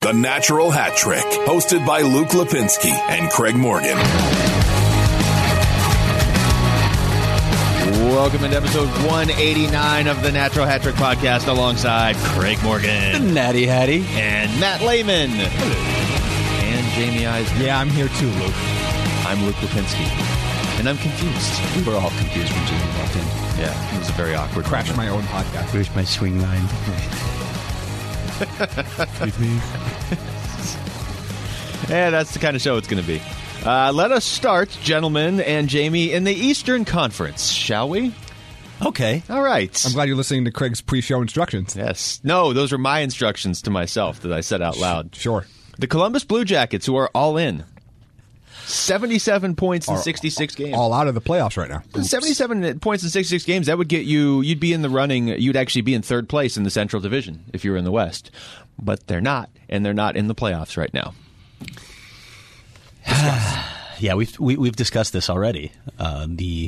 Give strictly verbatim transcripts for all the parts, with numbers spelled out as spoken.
The Natural Hat Trick, hosted by Luke Lipinski and Craig Morgan. Welcome into episode one eighty-nine of the Natural Hat Trick podcast alongside Craig Morgan, Natty Hattie, and Matt Lehman. And Jamie Eisner. Yeah, I'm here too, Luke. I'm Luke Lipinski. And I'm confused. We were all confused when Jamie walked in. Yeah, it was a very awkward Crashed moment. my own podcast. Where's my swing line? Excuse me. Yeah, that's the kind of show it's going to be. Uh, let us start, gentlemen and Jamie, in the Eastern Conference, shall we? Okay. All right. I'm glad you're listening to Craig's pre-show instructions. Yes. No, those are my instructions to myself that I said out loud. Sure. The Columbus Blue Jackets, who are all in. seventy-seven points in sixty-six games. All out of the playoffs right now. seventy-seven points in sixty-six games, that would get you, you'd be in the running, you'd actually be in third place in the Central Division if you were in the West. But they're not, and they're not in the playoffs right now. Yeah, we've we, we've discussed this already. Uh, the,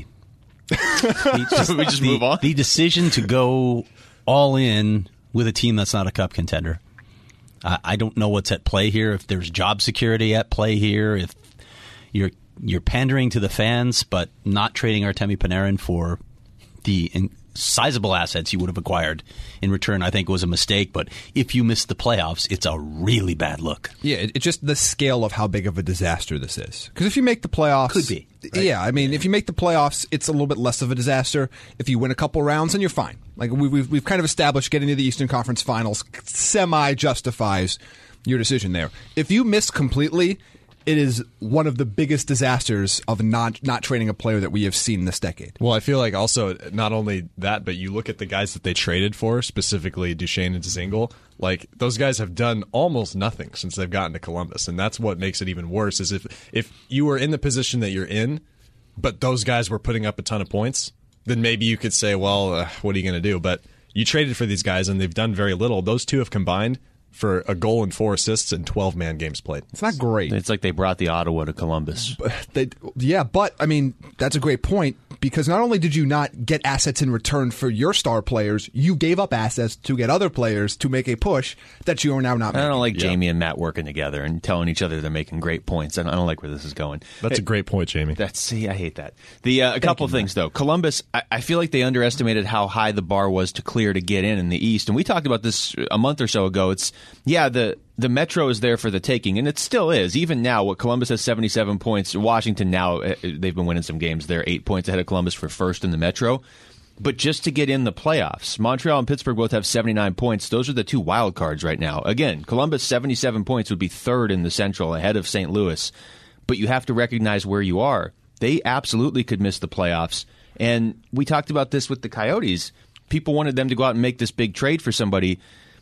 the just, we just the, move on. The decision to go all in with a team that's not a cup contender. Uh, I don't know what's at play here. If there's job security at play here, if you're you're pandering to the fans, but not trading Artemi Panarin for the in, sizable assets you would have acquired in return, I think was a mistake. But if you miss the playoffs, it's a really bad look. Yeah, it, it's just the scale of how big of a disaster this is. Because if you make the playoffs... Could be. Right? Yeah, I mean, if you make the playoffs, it's a little bit less of a disaster. If you win a couple rounds, then you're fine. Like we, we've, we've kind of established getting to the Eastern Conference Finals semi-justifies your decision there. If you miss completely... It is one of the biggest disasters of not not trading a player that we have seen this decade. Well, I feel like also not only that, but you look at the guys that they traded for, specifically Duchesne and Dzingel, like those guys have done almost nothing since they've gotten to Columbus, and that's what makes it even worse. Is if if you were in the position that you're in, but those guys were putting up a ton of points, then maybe you could say, well, uh, what are you going to do? But you traded for these guys, and they've done very little. Those two have combined for a goal and four assists in twelve-man games played. It's not great. It's like they brought the Ottawa to Columbus. They, yeah, but, I mean, that's a great point, because not only did you not get assets in return for your star players, you gave up assets to get other players to make a push that you are now not making. I don't like Yeah. Jamie and Matt working together and telling each other they're making great points. I don't, I don't like where this is going. That's Hey, a great point, Jamie. That's see, I hate that. The uh, a couple things though. Columbus, I, I feel like they underestimated how high the bar was to clear to get in in the East, and we talked about this a month or so ago. It's yeah, the the Metro is there for the taking, and it still is. Even now, what Columbus has seventy-seven points. Washington now they've been winning some games. They're eight points ahead of Columbus for first in the Metro. But just to get in the playoffs, Montreal and Pittsburgh both have seventy-nine points. Those are the two wild cards right now. Again, Columbus seventy-seven points would be third in the Central ahead of Saint Louis. But you have to recognize where you are. They absolutely could miss the playoffs. And we talked about this with the Coyotes. People wanted them to go out and make this big trade for somebody.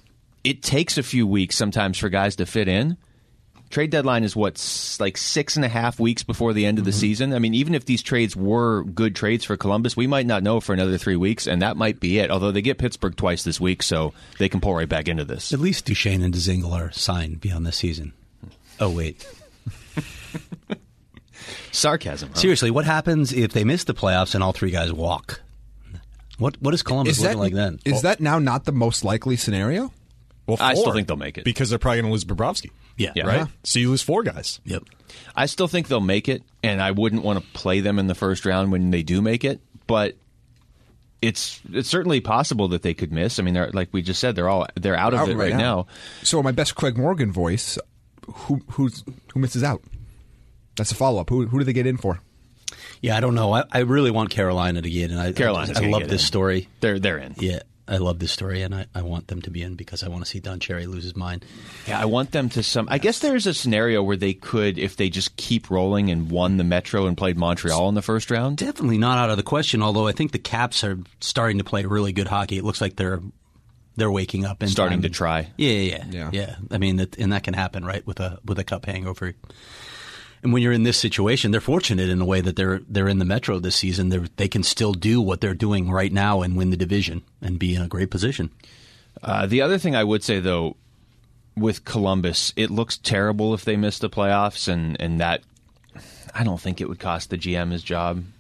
It takes a few weeks sometimes for guys to fit in. Trade deadline is what, like six and a half weeks before the end of the mm-hmm. season. I mean, even if these trades were good trades for Columbus, we might not know for another three weeks, and that might be it. Although they get Pittsburgh twice this week, so they can pull right back into this. At least Duchesne and Dzingel are signed beyond this season. Oh, wait. Sarcasm. Huh? Seriously, what happens if they miss the playoffs and all three guys walk? What What is Columbus is looking that, like then? Is that now not the most likely scenario? Well, I still four, think they'll make it. because they're probably going to lose Bobrovsky. Yeah. Yeah. Right? Uh-huh. So you lose four guys. Yep. I still think they'll make it, and I wouldn't want to play them in the first round when they do make it, but it's it's certainly possible that they could miss. I mean, they're like we just said, they're all they're out of Out it right now. So my best Craig Morgan voice, who who's, who misses out? That's a follow-up. Who, who do they get in for? Yeah, I don't know. I, I really want Carolina to get in. I, Carolina's I, I gonna love get this in. story. They're they're in. Yeah, I love this story, and I, I want them to be in because I want to see Don Cherry lose his mind. Yeah, I want them to some. I guess there's a scenario where they could, if they just keep rolling and won the Metro and played Montreal in the first round. Definitely not out of the question, although I think the Caps are starting to play really good hockey. It looks like they're they're waking up and Starting to try. Yeah, yeah, Yeah. yeah. I mean, that, and that can happen, right, with a with a cup hangover. And when you're in this situation, they're fortunate in a way that they're they're in the Metro this season. They they can still do what they're doing right now and win the division and be in a great position. Uh, the other thing I would say, though, with Columbus, it looks terrible if they miss the playoffs, and, and that I don't think it would cost the G M his job.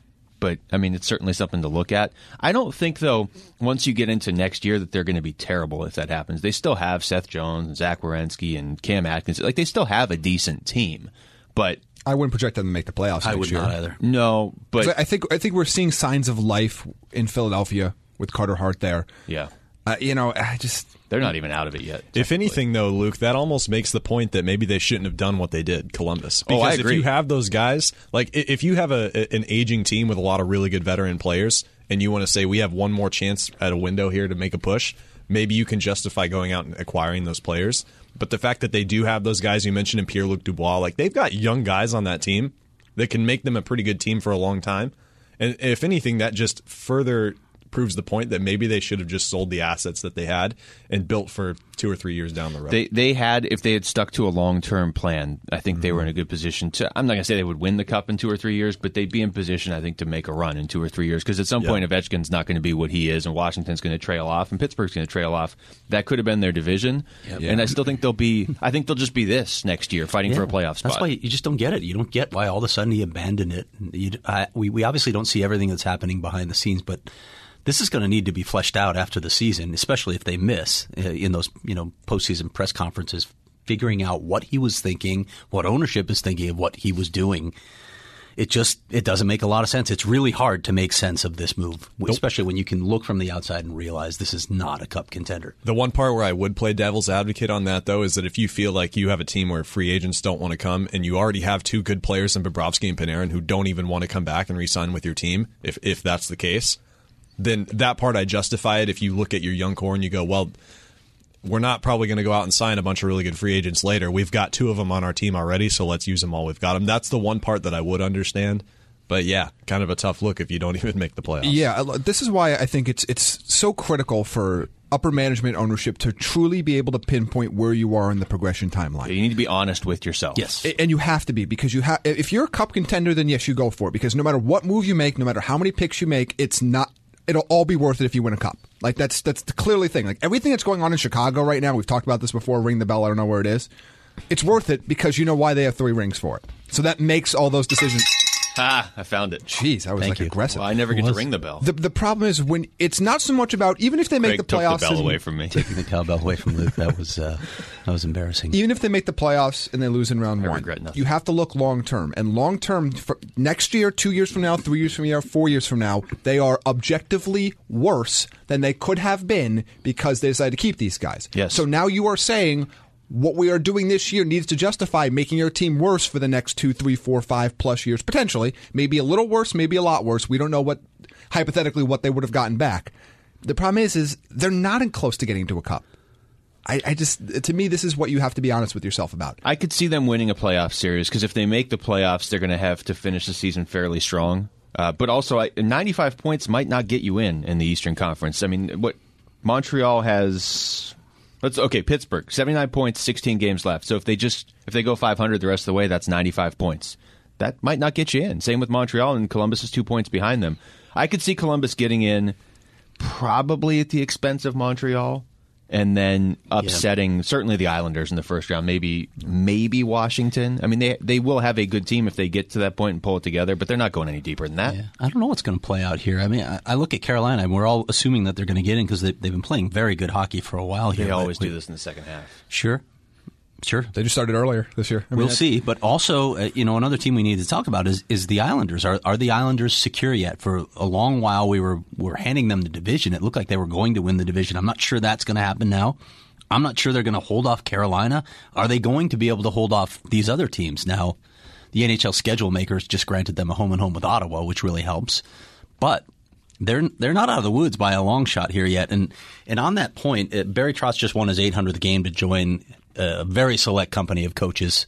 but I mean, it's certainly something to look at. I don't think, though, once you get into next year that they're going to be terrible if that happens. They still have Seth Jones and Zach Werenski and Cam Atkins. Like, they still have a decent team, but I wouldn't project them to make the playoffs. I next would year. not either. No, but I think I think we're seeing signs of life in Philadelphia with Carter Hart there. yeah, Uh, you know, I just they're not even out of it yet. If anything, though, Luke, that almost makes the point that maybe they shouldn't have done what they did, Columbus. Because Oh, I if agree. you have those guys, like i- if you have a, an aging team with a lot of really good veteran players, and you want to say we have one more chance at a window here to make a push, maybe you can justify going out and acquiring those players. But the fact that they do have those guys you mentioned in Pierre-Luc Dubois, like they've got young guys on that team that can make them a pretty good team for a long time. And if anything, that just further proves the point that maybe they should have just sold the assets that they had and built for two or three years down the road. They they had, if they had stuck to a long-term plan, I think they were in a good position to, I'm not going to say they would win the Cup in two or three years, but they'd be in position, I think, to make a run in two or three years. Because at some Yeah. point, Ovechkin's not going to be what he is, and Washington's going to trail off, and Pittsburgh's going to trail off. That could have been their division. And I still think they'll be, I think they'll just be this next year, fighting for a playoff spot. That's why you just don't get it. You don't get why all of a sudden he abandoned it. You, I, we, we obviously don't see everything that's happening behind the scenes, but this is going to need to be fleshed out after the season, especially if they miss uh, in those you know postseason press conferences, figuring out what he was thinking, what ownership is thinking of what he was doing. It just it doesn't make a lot of sense. It's really hard to make sense of this move, especially when you can look from the outside and realize this is not a Cup contender. The one part where I would play devil's advocate on that, though, is that if you feel like you have a team where free agents don't want to come and you already have two good players in Bobrovsky and Panarin who don't even want to come back and re-sign with your team, if if that's the case, then that part I justify it. If you look at your young core and you go, well, we're not probably going to go out and sign a bunch of really good free agents later. We've got two of them on our team already, so let's use them while we've got them. That's the one part that I would understand. But yeah, kind of a tough look if you don't even make the playoffs. Yeah, this is why I think it's it's so critical for upper management ownership to truly be able to pinpoint where you are in the progression timeline. You need to be honest with yourself. Yes. And you have to be, because you have. If you're a Cup contender, then yes, you go for it. Because no matter what move you make, no matter how many picks you make, it's not. It'll all be worth it if you win a Cup. Like that's that's the clearly thing. Like everything that's going on in Chicago right now, we've talked about this before. Ring the bell. I don't know where it is. It's worth it because you know why they have three rings for it. So that makes all those decisions. Ah, I found it. Jeez, I was Thank like you. aggressive. Well, I never get to ring the bell. The the problem is when it's not so much about even if they make Craig the took playoffs. the bell and- away from me. Taking the cowbell away from Luke, that was uh, that was embarrassing. Even if they make the playoffs and they lose in round I one, regret nothing. you have to look long term. And long term, for next year, two years from now, three years from now, four years from now, they are objectively worse than they could have been because they decided to keep these guys. Yes. So now you are saying what we are doing this year needs to justify making your team worse for the next two, three, four, five plus years, potentially. Maybe a little worse, maybe a lot worse. We don't know what, hypothetically, what they would have gotten back. The problem is, is they're not in close to getting to a Cup. I, I just, to me, this is what you have to be honest with yourself about. I could see them winning a playoff series because if they make the playoffs, they're going to have to finish the season fairly strong. Uh, but also, I, ninety-five points might not get you in in the Eastern Conference. I mean, what Montreal has. Let's okay. Pittsburgh, seventy-nine points, sixteen games left. So if they just if they go five hundred the rest of the way, that's ninety-five points. That might not get you in. Same with Montreal, and Columbus is two points behind them. I could see Columbus getting in, probably at the expense of Montreal, and then upsetting certainly the Islanders in the first round. Maybe maybe Washington. I mean, they they will have a good team if they get to that point and pull it together, but they're not going any deeper than that. Yeah. I don't know what's going to play out here. I mean, I, I look at Carolina, and we're all assuming that they're going to get in because they, they've been playing very good hockey for a while here. They always but, do this in the second half. Sure. Sure. They just started earlier this year. I mean, We'll that- see. But also, uh, you know, another team we need to talk about is is the Islanders. Are are the Islanders secure yet? For a long while, we were were handing them the division. It looked like they were going to win the division. I'm not sure that's going to happen now. I'm not sure they're going to hold off Carolina. Are they going to be able to hold off these other teams? Now, the N H L schedule makers just granted them a home and home with Ottawa, which really helps. But they're they're not out of the woods by a long shot here yet. And and on that point, uh, Barry Trotz just won his eight hundredth game to join a very select company of coaches.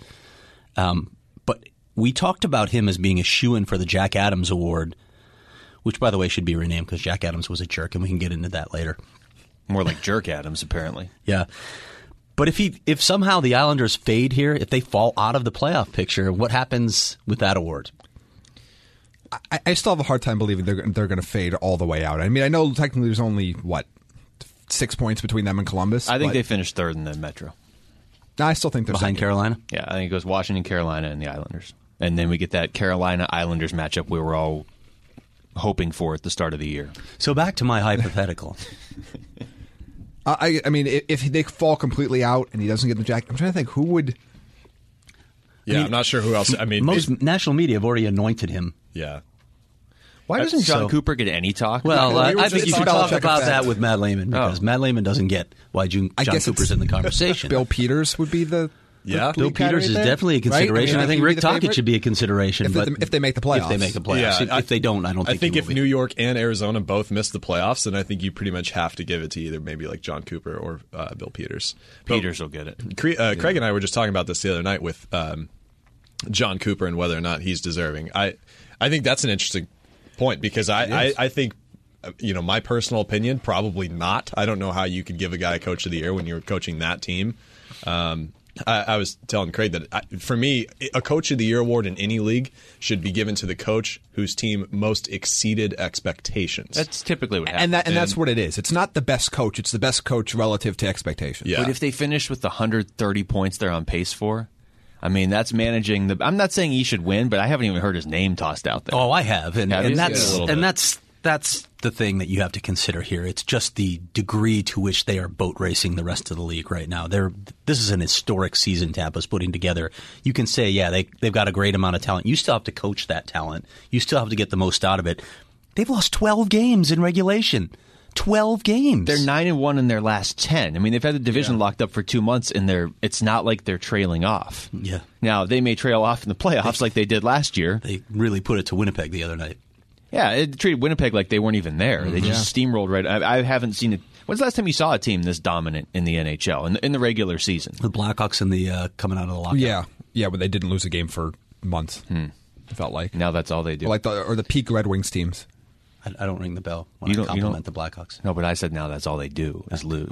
Um, but we talked about him as being a shoo-in for the Jack Adams Award, which, by the way, should be renamed because Jack Adams was a jerk, and we can get into that later. More like Jerk Adams, apparently. Yeah. But if he, if somehow the Islanders fade here, if they fall out of the playoff picture, what happens with that award? I, I still have a hard time believing they're they're going to fade all the way out. I mean, I know technically there's only what six points between them and Columbus. I think but they finished third in the Metro. I still think they're Behind second. Carolina? Yeah, I think it goes Washington, Carolina, and the Islanders. And then we get that Carolina-Islanders matchup where we're all hoping for at the start of the year. So back to my hypothetical. I, I mean, if they fall completely out and he doesn't get the jacket, I'm trying to think who would. Yeah, I mean, I'm not sure who else. I mean, Most it- national media have already anointed him. yeah. Why doesn't John So- Cooper get any talk? Well, Well, I, we were I just think you should talking talk about about Belichick that effect. with Matt Lehman because Oh. Matt Lehman doesn't get why June, I John guess Cooper's it's in the conversation. Bill Peters would be the. Yeah. the Bill lead Peters candidate is there, definitely a right? consideration. I, mean, think he'd be Rick the Tocchet favorite. should be a consideration. If they- but if they make the If they playoffs. make the playoffs. Yeah, if, I- if they don't, I don't I think think he if will New be. York and Arizona both miss the playoffs, then I think you pretty much have to give it to either maybe like John Cooper or uh, Bill Peters. Peters will get it. Cre- uh, Craig and I were just talking about this the other night with um, John Cooper and whether or not he's deserving. I I think that's an interesting point because I, I, I think, uh, you know, my personal opinion, probably not. I don't know how you could give a guy Coach of the Year when you're coaching that team. Um, I, I was telling Craig that I, for me, a Coach of the Year award in any league should be given to the coach whose team most exceeded expectations. That's typically what happens. And that and that's what it is. It's not the best coach. It's the best coach relative to expectations. Yeah. But if they finish with the one hundred thirty points they're on pace for, I mean, that's managing the. I'm not saying he should win, but I haven't even heard his name tossed out there. Oh, I have, and, Have you? and Yeah, that's a little and bit. that's that's the thing that you have to consider here. It's just the degree to which they are boat racing the rest of the league right now. They're this is an historic season Tampa's putting together. You can say, yeah, they they've got a great amount of talent. You still have to coach that talent. You still have to get the most out of it. They've lost twelve games in regulation. Twelve games. They're nine and one in their last ten. I mean, they've had the division locked up for two months, and they're. It's not like they're trailing off. Yeah. Now they may trail off in the playoffs like they did last year. They really put it to Winnipeg the other night. Yeah, it treated Winnipeg like they weren't even there. They just steamrolled right. I, I haven't seen it. When's the last time you saw a team this dominant in the N H L in the, in the regular season? The Blackhawks in the uh, coming out of the lockout. Yeah, yeah, but they didn't lose a game for months. It felt like Now that's all they do. Or like the or the peak Red Wings teams. I, I don't ring the bell when You I don't- you compliment don't- the Blackhawks. no, but I said now that's all they do is lose.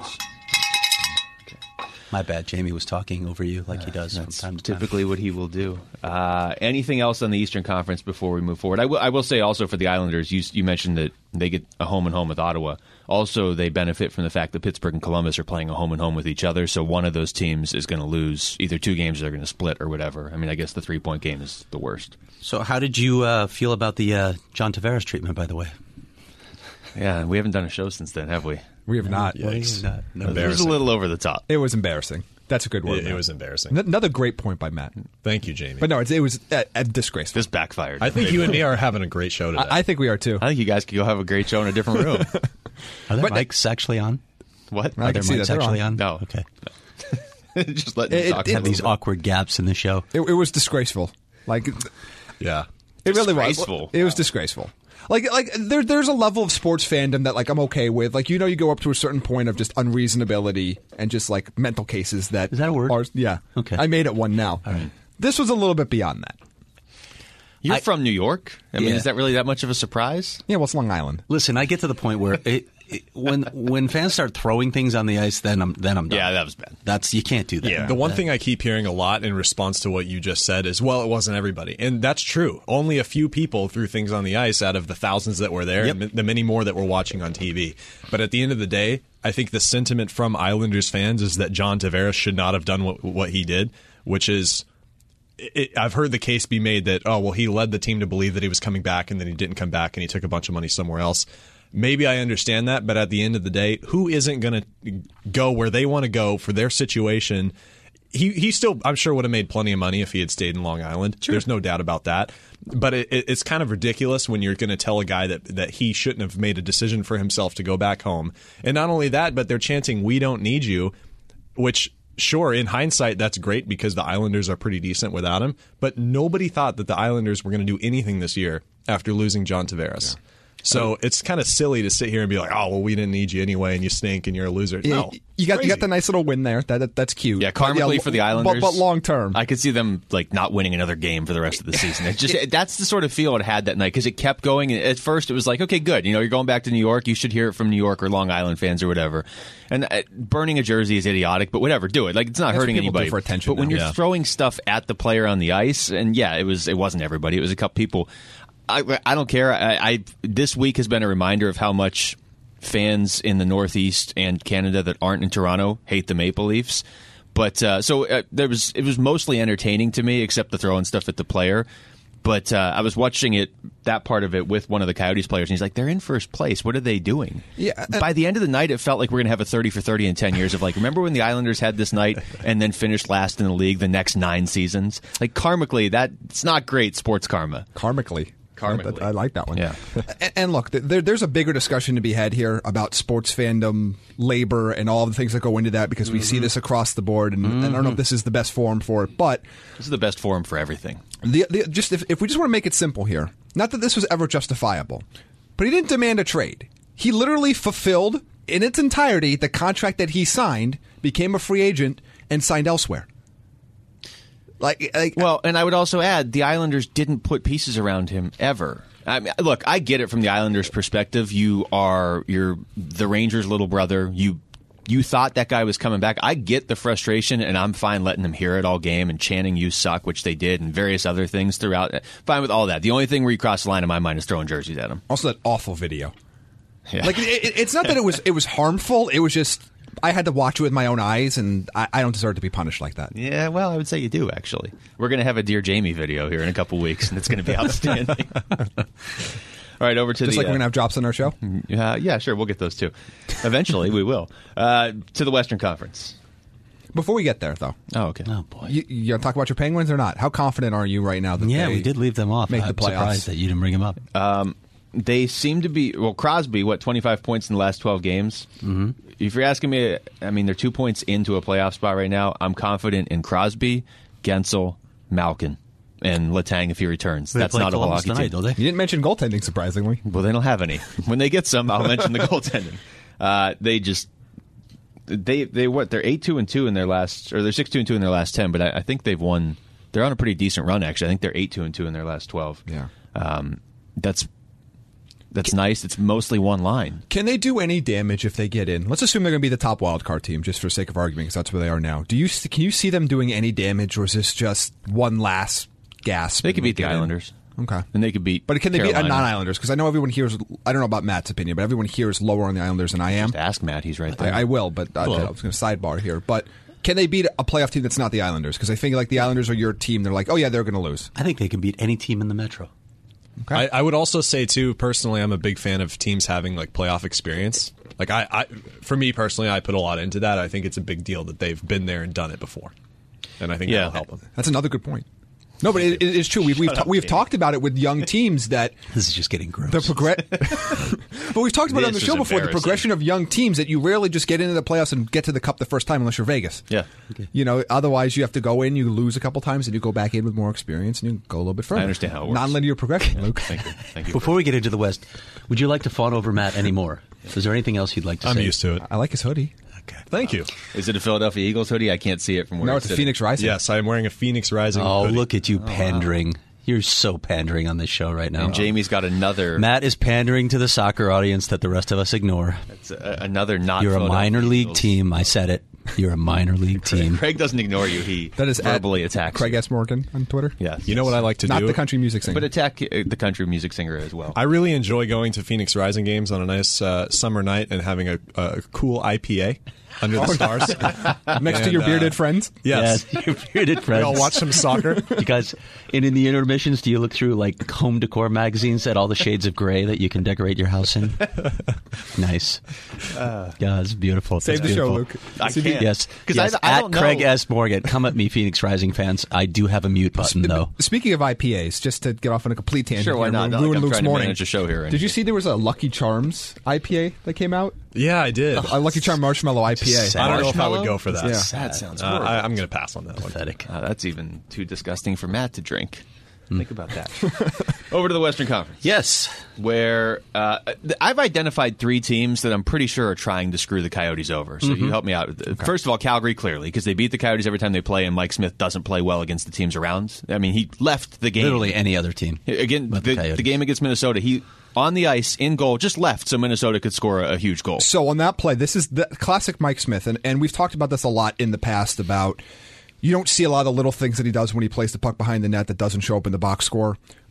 My bad. Jamie was talking over you like he does from That's time to time. typically what he will do. Uh, anything else on the Eastern Conference before we move forward? I will, I will say also for the Islanders, you, you mentioned that they get a home and home with Ottawa. Also, they benefit from the fact that Pittsburgh and Columbus are playing a home and home with each other, so one of those teams is going to lose either two games or they're going to split or whatever. I mean, I guess the three-point game is the worst. So, how did you uh, feel about the uh, John Tavares treatment, by the way? Yeah, we haven't done a show since then, have we? We have not. Yikes. Not- no. It was a Embarrassing. little over the top. It was embarrassing. That's a good word. It, it Matt. was embarrassing. N- Another great point by Matt. Thank you, Jamie. But no, it's, it was uh, uh, disgraceful. This backfired. I think you and me are having a great show today. I, I think we are too. I think you guys could go have a great show in a different room. Are there But- mics actually on? What? I Are can there see mics that they're actually on. on? No. Okay. Just letting It- you talk it- for a Have these little bit. awkward gaps in the show. It, it was disgraceful. Like it yeah. really was. Disgraceful. It was disgraceful. Like like there there's a level of sports fandom that like I'm okay with. Like you know you go up to a certain point of just unreasonability and just like mental cases that Is that a word? Are, yeah. Okay. I made it one now. All right. This was a little bit beyond that. You're I- from New York. I mean, Yeah. is that really that much of a surprise? Yeah, well, it's Long Island. Listen, I get to the point where it, it, when when fans start throwing things on the ice, then I'm then I'm done. Yeah, that was bad. That's you can't do that. Yeah. The one thing I keep hearing a lot in response to what you just said is, well, it wasn't everybody. And that's true. Only a few people threw things on the ice out of the thousands that were there Yep. and the many more that were watching on T V. But at the end of the day, I think the sentiment from Islanders fans is that John Tavares should not have done what, what he did, which is it, I've heard the case be made that, oh, well, he led the team to believe that he was coming back and then he didn't come back and he took a bunch of money somewhere else. Maybe I understand that, but at the end of the day, who isn't going to go where they want to go for their situation? He he still, I'm sure, would have made plenty of money if he had stayed in Long Island. There's no doubt about that. But it, it, it's kind of ridiculous when you're going to tell a guy that, that he shouldn't have made a decision for himself to go back home. And not only that, but they're chanting, "We don't need you," which, sure, in hindsight, that's great because the Islanders are pretty decent without him. But nobody thought that the Islanders were going to do anything this year after losing John Tavares. So it's kind of silly to sit here and be like, "Oh, well, we didn't need you anyway, and you stink, and you're a loser." Yeah, No, you got crazy. you got the nice little win there. That, that that's cute. Yeah, But, karmically yeah, for the but- Islanders. but, long term. I could see them like not winning another game for the rest of the season. It just that's the sort of feel it had that night because it kept going. At first, it was like, okay, good. You know, you're going back to New York. You should hear it from New York or Long Island fans or whatever. And uh, burning a jersey is idiotic, but whatever, do it. Like it's not That's what hurting people do anybody. for attention but when now. you're Yeah. throwing stuff at the player on the ice, and yeah, it was it wasn't everybody. It was a couple people. I I don't care. I, I this week has been a reminder of how much fans in the Northeast and Canada that aren't in Toronto hate the Maple Leafs. But uh, so uh, there was it was mostly entertaining to me, except the throwing stuff at the player. But uh, I was watching it, that part of it, with one of the Coyotes players, and he's like, they're in first place. What are they doing? Yeah, uh, By the end of the night, it felt like we're going to have a thirty for thirty in ten years of like, remember when the Islanders had this night and then finished last in the league the next nine seasons? Like, karmically, that it's not great sports karma. Karmically. Karmically. I, I like that one. Yeah. and, and look, there, there's a bigger discussion to be had here about sports fandom, labor, and all the things that go into that because we mm-hmm. see this across the board. And, mm-hmm. and I don't know if this is the best forum for it, but this is the best forum for everything. The, the, just if, if we just want to make it simple here, not that this was ever justifiable, but he didn't demand a trade. He literally fulfilled in its entirety the contract that he signed, became a free agent, and signed elsewhere. Like, like, well, and I would also add the Islanders didn't put pieces around him ever. I mean, look, I get it from the Islanders' perspective. You are you're the Rangers' little brother. You you thought that guy was coming back. I get the frustration, and I'm fine letting them hear it all game and chanting "you suck," which they did, and various other things throughout. Fine with all that. The only thing where you cross the line in my mind is throwing jerseys at him. Also, that awful video. Yeah. Like, it, it's not that it was it was harmful. It was just. I had to watch it with my own eyes, and I, I don't deserve to be punished like that. Yeah, well, I would say you do, actually. We're going to have a Dear Jamie video here in a couple weeks, and it's going to be outstanding. All right, over to Just the... like uh, we're going to have drops on our show? Uh, yeah, sure, we'll get those, too. Eventually, we will. Uh, to the Western Conference. Before we get there, though. Oh, okay. Oh, boy. You, you going to talk about your Penguins or not? How confident are you right now that yeah, they we did leave them off. make I'm the playoffs? surprised that you didn't bring them up. Um, they seem to be... Well, Crosby, what, twenty-five points in the last twelve games? Mm-hmm. If you're asking me, I mean, they're two points into a playoff spot right now. I'm confident in Crosby, Gensel, Malkin, and Letang if he returns. They That's play not a Columbus hockey tonight, team. don't they? You didn't mention goaltending, surprisingly. Well, they don't have any. When they get some, I'll mention the goaltending. Uh, they just they they what they're eight two and two in their last, or they're six two and two in their last ten. But I, I think they've won. They're on a pretty decent run actually. I think they're eight two and two in their last twelve. Yeah, um, that's. That's nice. It's mostly one line. Can they do any damage if they get in? Let's assume they're going to be the top wild card team, just for sake of argument, because that's where they are now. Do you can you see them doing any damage, or is this just one last gasp? They could beat the in? Islanders. Okay, and they could beat. But can they Carolina. beat a non-Islanders? Because I know everyone here is. I don't know about Matt's opinion, but everyone here is lower on the Islanders than I am. Just ask Matt. He's right there. I, I will, but uh, I was going to sidebar here. But can they beat a playoff team that's not the Islanders? Because I think like the Islanders are your team. They're like, oh yeah, they're going to lose. I think they can beat any team in the Metro. Okay. I, I would also say too, personally, I'm a big fan of teams having like playoff experience. Like I, I, for me personally, I put a lot into that. I think it's a big deal that they've been there and done it before, and I think yeah. that'll help them. That's another good point. No, but it, it's true. We've we've, ta- we've talked about it with young teams that this is just getting gross. the progress. But we've talked about it on the This show is before. The progression of young teams that you rarely just get into the playoffs and get to the cup the first time unless you're Vegas. Yeah. Okay. You know, otherwise you have to go in, you lose a couple times, and you go back in with more experience, and you go a little bit further. I understand how it works. Non-linear progression, Yeah. Luke. Thank you. Thank you. Before we get into the West, would you like to fawn over Matt anymore? Is there anything else you'd like to I'm say? used to it. I like his hoodie. Okay. Thank you. Is it a Philadelphia Eagles hoodie? I can't see it from where No, it's it's a sitting. Phoenix Rising. Yes, I am wearing a Phoenix Rising. Oh, hoodie. look at you pandering. You're so pandering on this show right now. And Jamie's got another. Matt is pandering to the soccer audience that the rest of us ignore. It's a, another not. You're a Philadelphia minor league Eagles. team. I said it. You're a minor league team. Craig doesn't ignore you. He That is verbally at attacks Craig you. S. Morgan on Twitter. Yes. You know what I like to Not do? the country music singer. But attack uh, the country music singer as well. I really enjoy going to Phoenix Rising games on a nice uh, summer night and having a, a cool I P A under the stars. Next to And, your uh, bearded friends. Yes. Yeah, your bearded We friends. all watch some soccer. You guys, and in the intermissions, do you look through like home decor magazines at all the shades of gray that you can decorate your house in? Nice. Uh, yeah, it's beautiful. Save It's the show, beautiful. Luke. I can't. Yes, 'Cause yes. I- I at don't know. Craig S. Morgan. Come at me, Phoenix Rising fans. I do have a mute button, though. Speaking of I P As, just to get off on a complete tangent, Sure, why here, not? and Not like ruin I'm Luke's trying to morning. manage a show here or Did you anything. see there was a Lucky Charms I P A that came out? Yeah, I did. A Lucky Charm Marshmallow I P A. Sad. I don't know if I Marshmallow? would go for that. Yeah. That sounds Uh, horrible. I, I'm going to pass on that one. Pathetic. Uh, that's even too disgusting for Matt to drink. Think about that. Over to the Western Conference. Yes. Where uh, th- I've identified three teams that I'm pretty sure are trying to screw the Coyotes over. So you help me out. First of all, Calgary, clearly, because they beat the Coyotes every time they play, and Mike Smith doesn't play well against the teams around. I mean, he left the game. Literally any other team. Again, but the, the Coyotes. the game against Minnesota, he on the ice, in goal, just left so Minnesota could score a, a huge goal. So on that play, this is the classic Mike Smith, and, and we've talked about this a lot in the past about you don't see a lot of the little things that he does when he plays the puck behind the net that doesn't show up in the box score.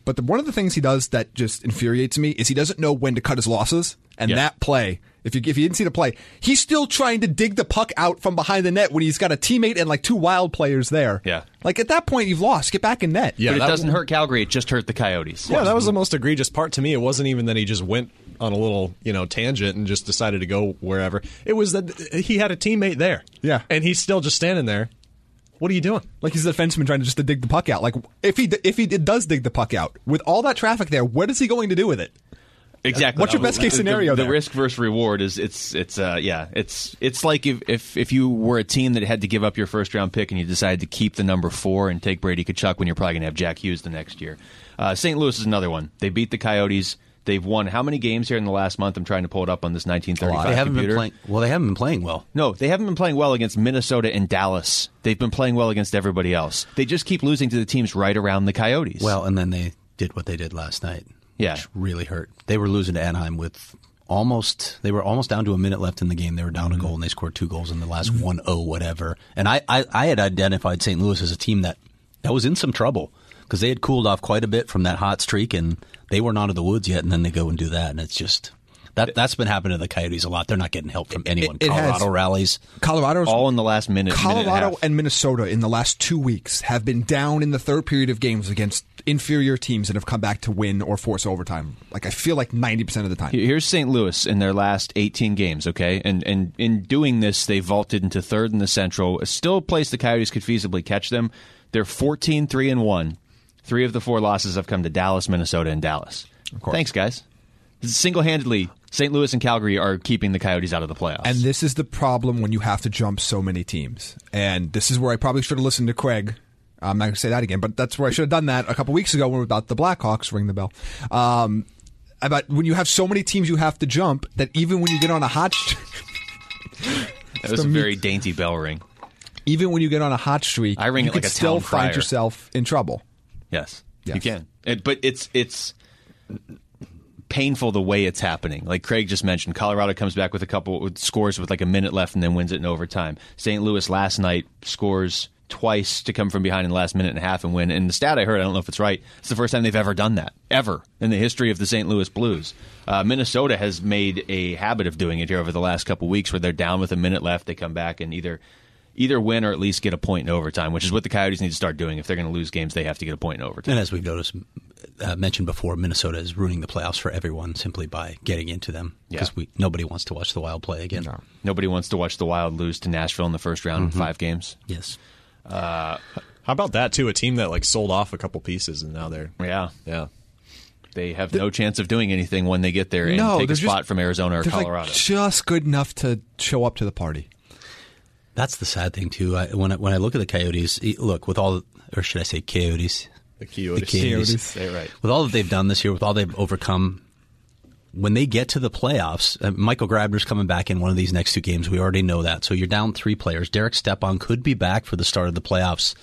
But the, one of the things he does that just infuriates me is he doesn't know when to cut his losses. And Yeah. that play, if you if you didn't see the play, he's still trying to dig the puck out from behind the net when he's got a teammate and like two Wild players there. Yeah. Like at that point, you've lost. Get back in net. Yeah, but it that- doesn't hurt Calgary. It just hurt the Coyotes. Yeah, that was the most egregious part to me. It wasn't even that he just went on a little, you know, tangent and just decided to go wherever. It was that he had a teammate there. Yeah. And he's still just standing there. What are you doing? Like he's a defenseman trying to just to dig the puck out. Like if he if he does dig the puck out with all that traffic there, what is he going to do with it? Exactly. What's your best case The- scenario The, the there? risk versus reward is it's it's uh yeah it's it's like if, if if you were a team that had to give up your first round pick and you decided to keep the number four and take Brady Tkachuk when you're probably going to have Jack Hughes the next year. Uh, Saint Louis is another one. They beat the Coyotes. They've won how many games here in the last month? I'm trying to pull it up on this nineteen thirty-five They haven't computer. been playing. Well, they haven't been playing well. No, they haven't been playing well against Minnesota and Dallas. They've been playing well against everybody else. They just keep losing to the teams right around the Coyotes. Well, and then they did what they did last night. Yeah. Which really hurt. They were losing to Anaheim with almost. They were almost down to a minute left in the game. They were down a goal, and they scored two goals in the last one oh whatever. And I, I, I had identified Saint Louis as a team that that was in some trouble because they had cooled off quite a bit from that hot streak, and they weren't out of the woods yet. And then they go and do that, and it's just. That, that's been happening to the Coyotes a lot. They're not getting help from anyone. it has. Colorado rallies. Colorado's all in the last minute. minute and, a Colorado half. and Minnesota in the last two weeks have been down in the third period of games against inferior teams and have come back to win or force overtime. Like I feel like ninety percent of the time. Here's Saint Louis in their last eighteen games, okay? And and in doing this, they vaulted into third in the Central. Still a place the Coyotes could feasibly catch them. They're fourteen three and one. Three of the four losses have come to Dallas, Minnesota, and Dallas. Thanks, guys. Single-handedly, Saint Louis and Calgary are keeping the Coyotes out of the playoffs. And this is the problem when you have to jump so many teams. And this is where I probably should have listened to Craig. I'm not going to say that again, but that's where I should have done that a couple weeks ago when we were about the Blackhawks. Ring the bell. Um, about when you have so many teams you have to jump that even when you get on a hot, st- that was a very dainty bell ring. even when you get on a hot streak, I ring you it like could a still town find crier. yourself in trouble. Yes, Yes. you can. It, but it's it's painful the way it's happening. Like Craig just mentioned, Colorado comes back with a couple with scores with like a minute left and then wins it in overtime. Saint Louis last night scores twice to come from behind in the last minute and a half and win. And the stat I heard, I don't know if it's right, it's the first time they've ever done that, ever, in the history of the Saint Louis Blues. Uh, Minnesota has made a habit of doing it here over the last couple weeks where they're down with a minute left, they come back and either either win or at least get a point in overtime, which is what the Coyotes need to start doing. If they're going to lose games, they have to get a point in overtime. And as we've noticed, uh, mentioned before, Minnesota is ruining the playoffs for everyone simply by getting into them because Yeah. we nobody wants to watch the Wild play again. No. Nobody wants to watch the Wild lose to Nashville in the first round Mm-hmm. in five games. Yes. How about that too? A team that like sold off a couple pieces and now they're Yeah. yeah. They have no chance of doing anything when they get there and No, take a they're spot just- from Arizona or They're Colorado. like just good enough to show up to the party. That's the sad thing too. I, when I, when I look at the Coyotes, e- look with all, or should I say Coyotes? The Coyotes. The Coyotes. Coyotes. Say it right. With all that they've done this year, with all they've overcome, when they get to the playoffs, uh, Michael Grabner's coming back in one of these next two games. We already know that. So you're down three players. Derek Stepan could be back for the start of the playoffs.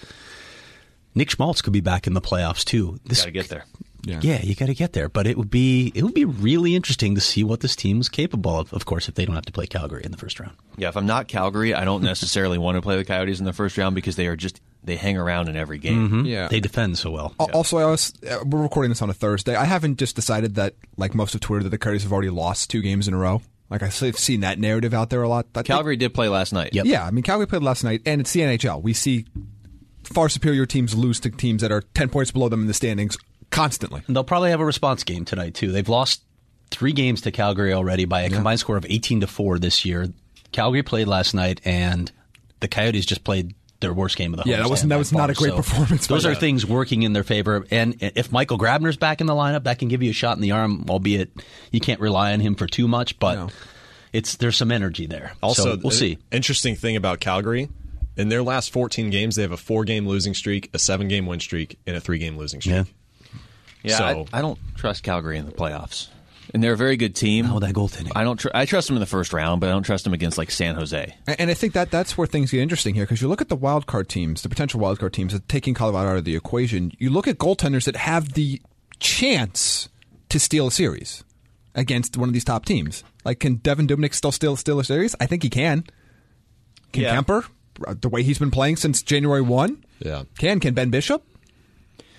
Nick Schmaltz could be back in the playoffs too. This, Got to get there. Yeah, you got to get there. But it would be it would be really interesting to see what this team is capable of. Of course, if they don't have to play Calgary in the first round. Yeah, if I'm not Calgary, I don't necessarily want to play the Coyotes in the first round because they are just they hang around in every game. Yeah. They defend so well. Al- Also, I was, uh, we're recording this on a Thursday. I haven't just decided that, like most of Twitter, that the Coyotes have already lost two games in a row. Like I've seen that narrative out there a lot. That Calgary did play last night. Yep. Yeah, I mean, Calgary played last night, and it's the N H L. We see far superior teams lose to teams that are ten points below them in the standings constantly. And they'll probably have a response game tonight too. They've lost three games to Calgary already by a combined score of eighteen to four this year. Calgary played last night, and the Coyotes just played their worst game of the Yeah, that homestand was- that by was not far. a great So performance by Those are them. things working in their favor. And if Michael Grabner's back in the lineup, that can give you a shot in the arm. Albeit you can't rely on him for too much, but No. it's there's some energy there. Also, so we'll the see. Interesting thing about Calgary, in their last fourteen games, they have a four-game losing streak, a seven-game win streak, and a three-game losing streak. Yeah. Yeah, So- I, I don't trust Calgary in the playoffs. And they're a very good team. Oh, that goaltending. I don't. Tr- I trust them in the first round, but I don't trust them against like San Jose. And and I think that that's where things get interesting here, because you look at the wild card teams, the potential wild card teams, that taking Colorado out of the equation. You look at goaltenders that have the chance to steal a series against one of these top teams. Like, can Devin Dubnyk still steal, steal a series? I think he can. Can Yeah. Kemper, the way he's been playing since January first? Yeah. Can. Can Ben Bishop?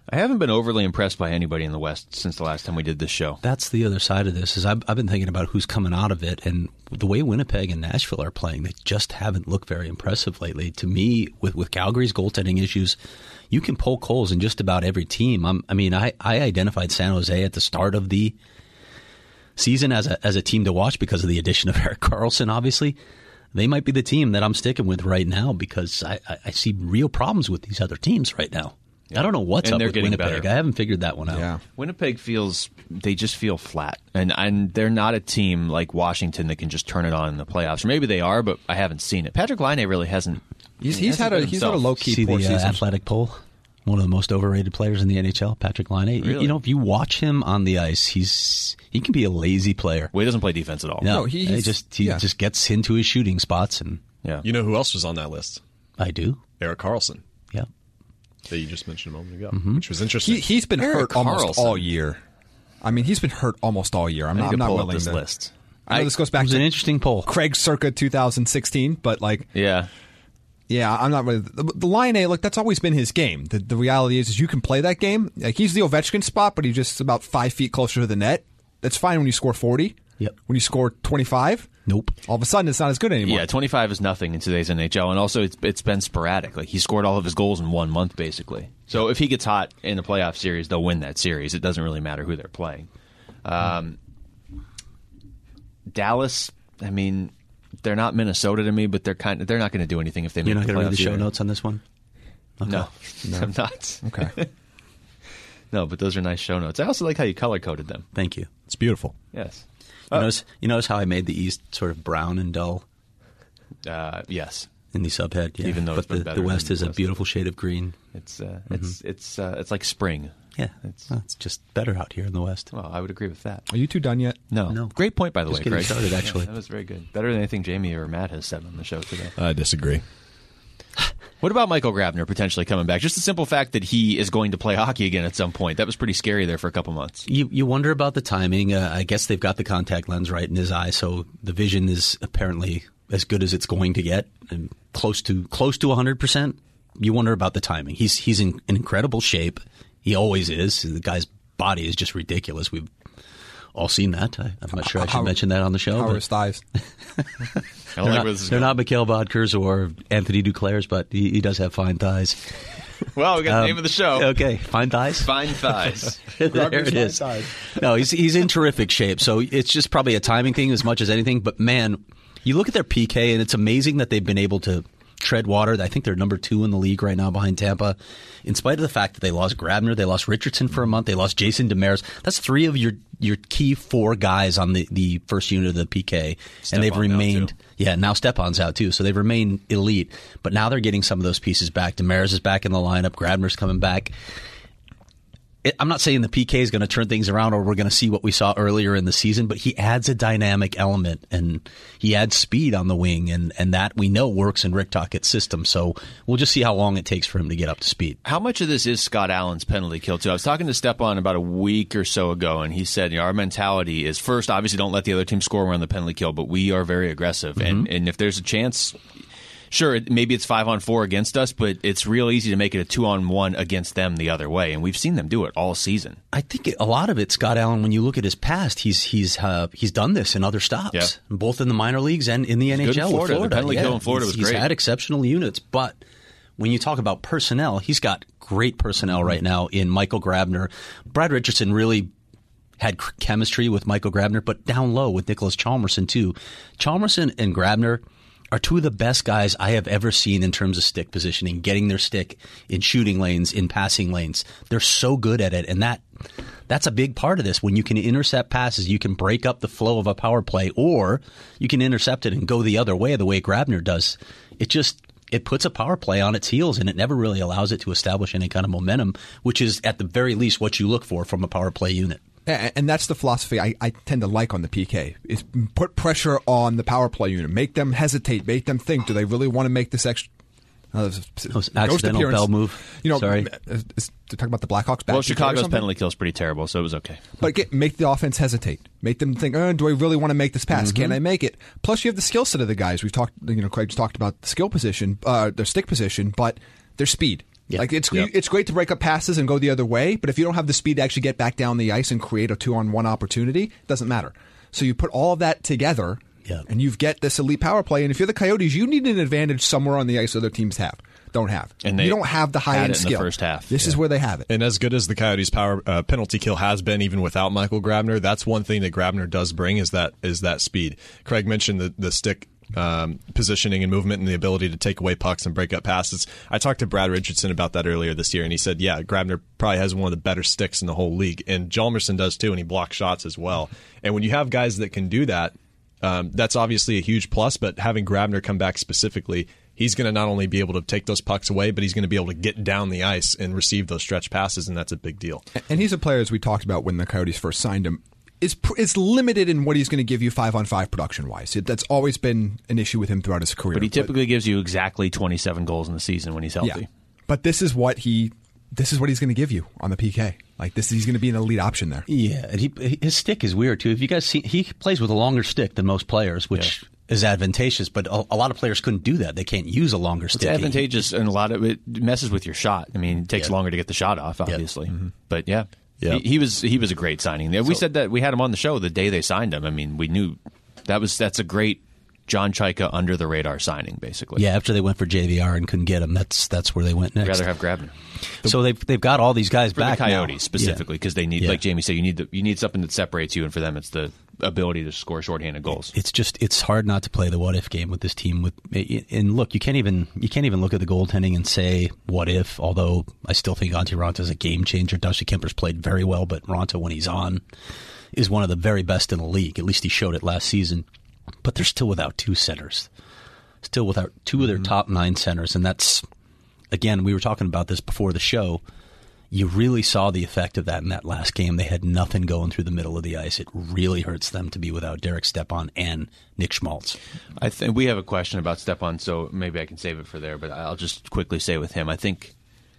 I haven't been overly impressed by anybody in the West since the last time we did this show. That's the other side of this. Is I've, I've been thinking about who's coming out of it, and the way Winnipeg and Nashville are playing, they just haven't looked very impressive lately. To me, with, with Calgary's goaltending issues, you can poke holes in just about every team. I'm, I mean, I, I identified San Jose at the start of the season as a as a team to watch because of the addition of Erik Karlsson, obviously. They might be the team that I'm sticking with right now because I, I, I see real problems with these other teams right now. Yeah. I don't know what's and up they're with getting Winnipeg. better. I haven't figured that one out. Yeah. Winnipeg feels, they just feel flat. And and they're not a team like Washington that can just turn it on in the playoffs. Or maybe they are, but I haven't seen it. Patrick Laine really hasn't. He's, he he's hasn't had a been he's had a himself. low key See poor the uh, season. athletic poll? One of the most overrated players in the N H L, Patrick Laine. Really? You know, if you watch him on the ice, he's he can be a lazy player. Well, he doesn't play defense at all. No, No, he- he he's- just he yeah. just gets into his shooting spots, and Yeah. You know who else was on that list? I do. Erik Karlsson, Yeah. that you just mentioned a moment ago, Mm-hmm. which was interesting. He, he's been Erik hurt almost Karlsson. all year. I mean, he's been hurt almost all year. I'm I not, need I'm to not pull up willing this to. list. I know this goes back It was to an interesting poll. Craig circa two thousand sixteen, but like, Yeah. yeah, I'm not really. The, the Line A, look, that's always been his game. The, the reality is, is you can play that game. Like, he's the Ovechkin spot, but he's just about five feet closer to the net. That's fine when you score forty. Yep. When you score twenty-five, Nope. all of a sudden it's not as good anymore. Yeah, twenty-five is nothing in today's N H L, and also it's it's been sporadic. Like he scored all of his goals in one month, basically. So if he gets hot in the playoff series, they'll win that series. It doesn't really matter who they're playing. Um, Dallas, I mean, they're not Minnesota to me, but they're kind of they're not going to do anything if they You're make not the going to read playoffs the show either. notes on this one? Okay. No, I'm not. Okay. No, but those are nice show notes. I also like how you color coded them. Thank you. It's beautiful. Yes. You, notice, you notice how I made the East sort of brown and dull Uh, yes. in the subhead? Yeah. Even though but it's been the, better the West than is the a West. beautiful shade of green. It's uh, it's it's uh, it's like spring. Yeah, It's- well, it's just better out here in the West. Well, I would agree with that. Are you two done yet? No, No. Great point, by the Just way, getting Craig. started, actually. Yeah, that was very good. Better than anything Jamie or Matt has said on the show today. I disagree. What about Michael Grabner potentially coming back? Just the simple fact that he is going to play hockey again at some point. That was pretty scary there for a couple months. You you wonder about the timing. Uh, I guess they've got the contact lens right in his eye, so the vision is apparently as good as it's going to get, and close to close to one hundred percent. You wonder about the timing. He's he's in, in incredible shape. He always is. The guy's body is just ridiculous. We've all seen that. I, I'm not sure I should How- mention that on the show. How are but his thighs? I they're don't like not, where this is they're going. not Mikhail Bodker's or Anthony Duclair's, but he, he does have fine thighs. Well, we got the Um, name of the show. Okay, fine thighs. Fine thighs. there Grabner's it fine is. thighs. No, he's he's in terrific shape. So it's just probably a timing thing as much as anything. But man, you look at their P K, and it's amazing that they've been able to tread water. I think they're number two in the league right now behind Tampa. In spite of the fact that they lost Grabner, they lost Richardson for a month, they lost Jason Demers. That's three of your your key four guys on the, the first unit of the P K, and they've Stepan now, remained. too. Yeah, now Stepan's out too, so they've remained elite. But now they're getting some of those pieces back. Demers is back in the lineup. Grabner's coming back. It, I'm not saying the P K is going to turn things around or we're going to see what we saw earlier in the season, but he adds a dynamic element and he adds speed on the wing, and, and that we know works in Rick Tockett's system. So we'll just see how long it takes for him to get up to speed. How much of this is Scott Allen's penalty kill, too? I was talking to Stepan about a week or so ago, and he said, you know, our mentality is first, obviously, don't let the other team score when on the penalty kill, but we are very aggressive. Mm-hmm. And, and if there's a chance, sure, it- maybe it's five on four against us, but it's real easy to make it a two on one against them the other way. And we've seen them do it all season. I think a lot of it, Scott Allen, when you look at his past, he's he's uh, he's done this in other stops, Yeah. both in the minor leagues and in the good N H L in Florida. with The Florida. penalty Yeah, kill in Florida he's, was he's great. had exceptional units, but when you talk about personnel, he's got great personnel right now in Michael Grabner. Brad Richardson really had c- chemistry with Michael Grabner, but down low with Nicholas Chalmerson too. Chalmerson and Grabner are two of the best guys I have ever seen in terms of stick positioning, getting their stick in shooting lanes, in passing lanes. They're so good at it, and that that's a big part of this. When you can intercept passes, you can break up the flow of a power play, or you can intercept it and go the other way, the way Grabner does. It just it puts a power play on its heels, and it never really allows it to establish any kind of momentum, which is at the very least what you look for from a power play unit. A- And that's the philosophy I, I tend to like on the P K, is put pressure on the power play unit. Make them hesitate. Make them think, do they really want to make this extra... Uh, was accidental bell move. You know, Sorry. uh, is- to talk about the Blackhawks back Well, or Chicago's something? penalty kill is pretty terrible, so it was okay. But get, make the offense hesitate. Make them think, oh, do I really want to make this pass? Mm-hmm. Can I make it? Plus, you have the skill set of the guys. We've talked, you know, Craig's talked about the skill position, uh, their stick position, but their speed. Yeah. Like it's Yep. it's great to break up passes and go the other way, but if you don't have the speed to actually get back down the ice and create a two-on-one opportunity, it doesn't matter. So you put all of that together, Yeah. and you get this elite power play. And if you're the Coyotes, you need an advantage somewhere on the ice other teams have don't have. And they you don't have the had high-end it in the skill. first half. This is where they have it. And as good as the Coyotes' power uh, penalty kill has been, even without Michael Grabner, that's one thing that Grabner does bring is that is that speed. Craig mentioned the the stick um, positioning and movement and the ability to take away pucks and break up passes. I talked to Brad Richardson about that earlier this year, and he said, yeah, Grabner probably has one of the better sticks in the whole league, and Hjalmarsson does too, and he blocks shots as well. And when you have guys that can do that, um, that's obviously a huge plus. But having Grabner come back specifically, he's going to not only be able to take those pucks away, but he's going to be able to get down the ice and receive those stretch passes, and that's a big deal. And he's a player, as we talked about when the Coyotes first signed him, is pr- is limited in what he's going to give you five-on-five production-wise. It, that's always been an issue with him throughout his career. But he typically gives you exactly twenty-seven goals in the season when he's healthy. Yeah. But this is what he this is what he's going to give you on the P K. Like this, he's going to be an elite option there. Yeah, and he, his stick is weird too. If you guys see, he plays with a longer stick than most players, which yeah. is advantageous. But a, a lot of players couldn't do that. They can't use a longer stick. It's advantageous, and a lot of it messes with your shot. I mean, it takes yeah. longer to get the shot off, obviously. Yeah. Mm-hmm. But yeah. Yeah. He, he was he was a great signing. We so, said that we had him on the show the day they signed him. I mean, we knew that was that's a great John Chayka under the radar signing, basically. Yeah, after they went for J V R and couldn't get him, that's that's where they went next. I'd rather have Grabner. So they've they've got all these guys for back the Coyotes now. specifically because yeah. they need, yeah. like Jamie said, you need the, you need something that separates you, and for them, it's the ability to score shorthanded goals. It's just it's hard not to play the what if game with this team. With and look, you can't even you can't even look at the goaltending and say what if. Although I still think Antti Raanta is a game changer. Dusty Kemper's played very well, but Raanta when he's on is one of the very best in the league. At least he showed it last season. But they're still without two centers. Still without two of their mm-hmm. top nine centers, and that's again we were talking about this before the show. You really saw the effect of that in that last game. They had nothing going through the middle of the ice. It really hurts them to be without Derek Stepan and Nick Schmaltz. I think we have a question about Stepan, so maybe I can save it for there, but I'll just quickly say with him, I think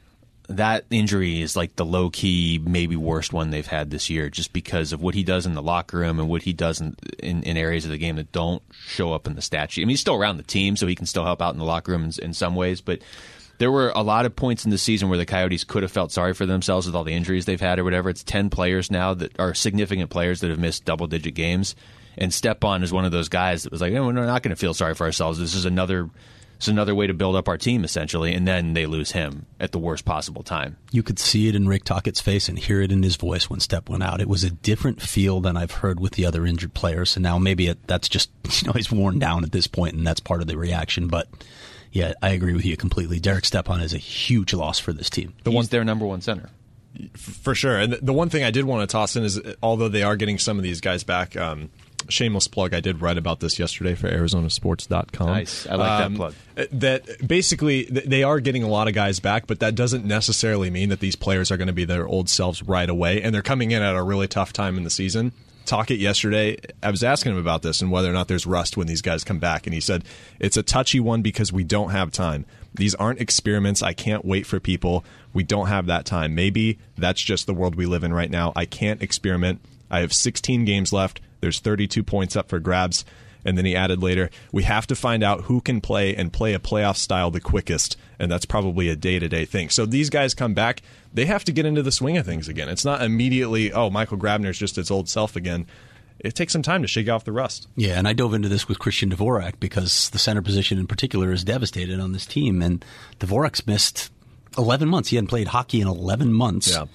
that injury is like the low-key, maybe worst one they've had this year just because of what he does in the locker room and what he does in, in, in areas of the game that don't show up in the stat sheet. I mean, he's still around the team, so he can still help out in the locker room in, in some ways, but there were a lot of points in the season where the Coyotes could have felt sorry for themselves with all the injuries they've had or whatever. It's ten players now that are significant players that have missed double-digit games, and Stepan is one of those guys that was like, no, we're not going to feel sorry for ourselves. This is another It's another way to build up our team, essentially, and then they lose him at the worst possible time. You could see it in Rick Tocchet's face and hear it in his voice when Step went out. It was a different feel than I've heard with the other injured players, and now maybe it, that's just, you know, he's worn down at this point, and that's part of the reaction, but yeah, I agree with you completely. Derek Stepan is a huge loss for this team. The He's their number one center. For sure. And the one thing I did want to toss in is, although they are getting some of these guys back, um, shameless plug, I did write about this yesterday for Arizona Sports dot com. Nice. I like um, that plug. That basically, they are getting a lot of guys back, but that doesn't necessarily mean that these players are going to be their old selves right away, and they're coming in at a really tough time in the season. Tocchet yesterday, I was asking him about this and whether or not there's rust when these guys come back, and he said, it's a touchy one because we don't have time. These aren't experiments. I can't wait for people. We don't have that time. Maybe that's just the world we live in right now. I can't experiment. I have sixteen games left. There's thirty-two points up for grabs. And then he added later, we have to find out who can play and play a playoff style the quickest. And that's probably a day-to-day thing. So these guys come back. They have to get into the swing of things again. It's not immediately, oh, Michael Grabner's just his old self again. It takes some time to shake off the rust. Yeah, and I dove into this with Christian Dvorak because the center position in particular is devastated on this team. And Dvorak's missed eleven months. He hadn't played hockey in eleven months. Yeah.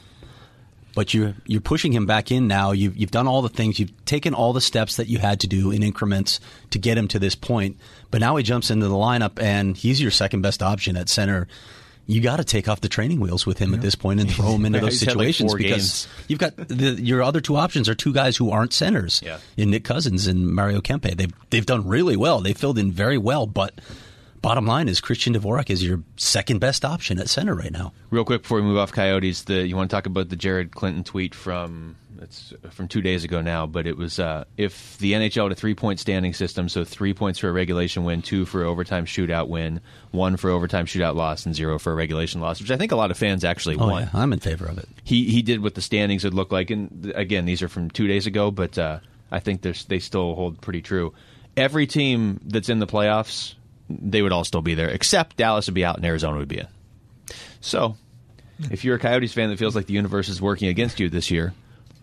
But you're you're pushing him back in now. You've you've done all the things. You've taken all the steps that you had to do in increments to get him to this point. But now he jumps into the lineup, and he's your second best option at center. You got to take off the training wheels with him yeah. at this point and throw him into those situations like because games. you've got the, your other two options are two guys who aren't centers yeah. in Nick Cousins and Mario Kempe. They've they've done really well. They filled in very well, but. Bottom line is Christian Dvorak is your second best option at center right now. Real quick before we move off Coyotes, the you want to talk about the Jared Clinton tweet from it's from two days ago now, but it was uh, if the N H L had a three-point standing system, so three points for a regulation win, two for overtime shootout win, one for overtime shootout loss, and zero for a regulation loss, which I think a lot of fans actually oh, want. Yeah, I'm in favor of it. He he did what the standings would look like, and again, these are from two days ago, but uh, I think they still hold pretty true. Every team that's in the playoffs, they would all still be there, except Dallas would be out and Arizona would be in. So, if you're a Coyotes fan that feels like the universe is working against you this year,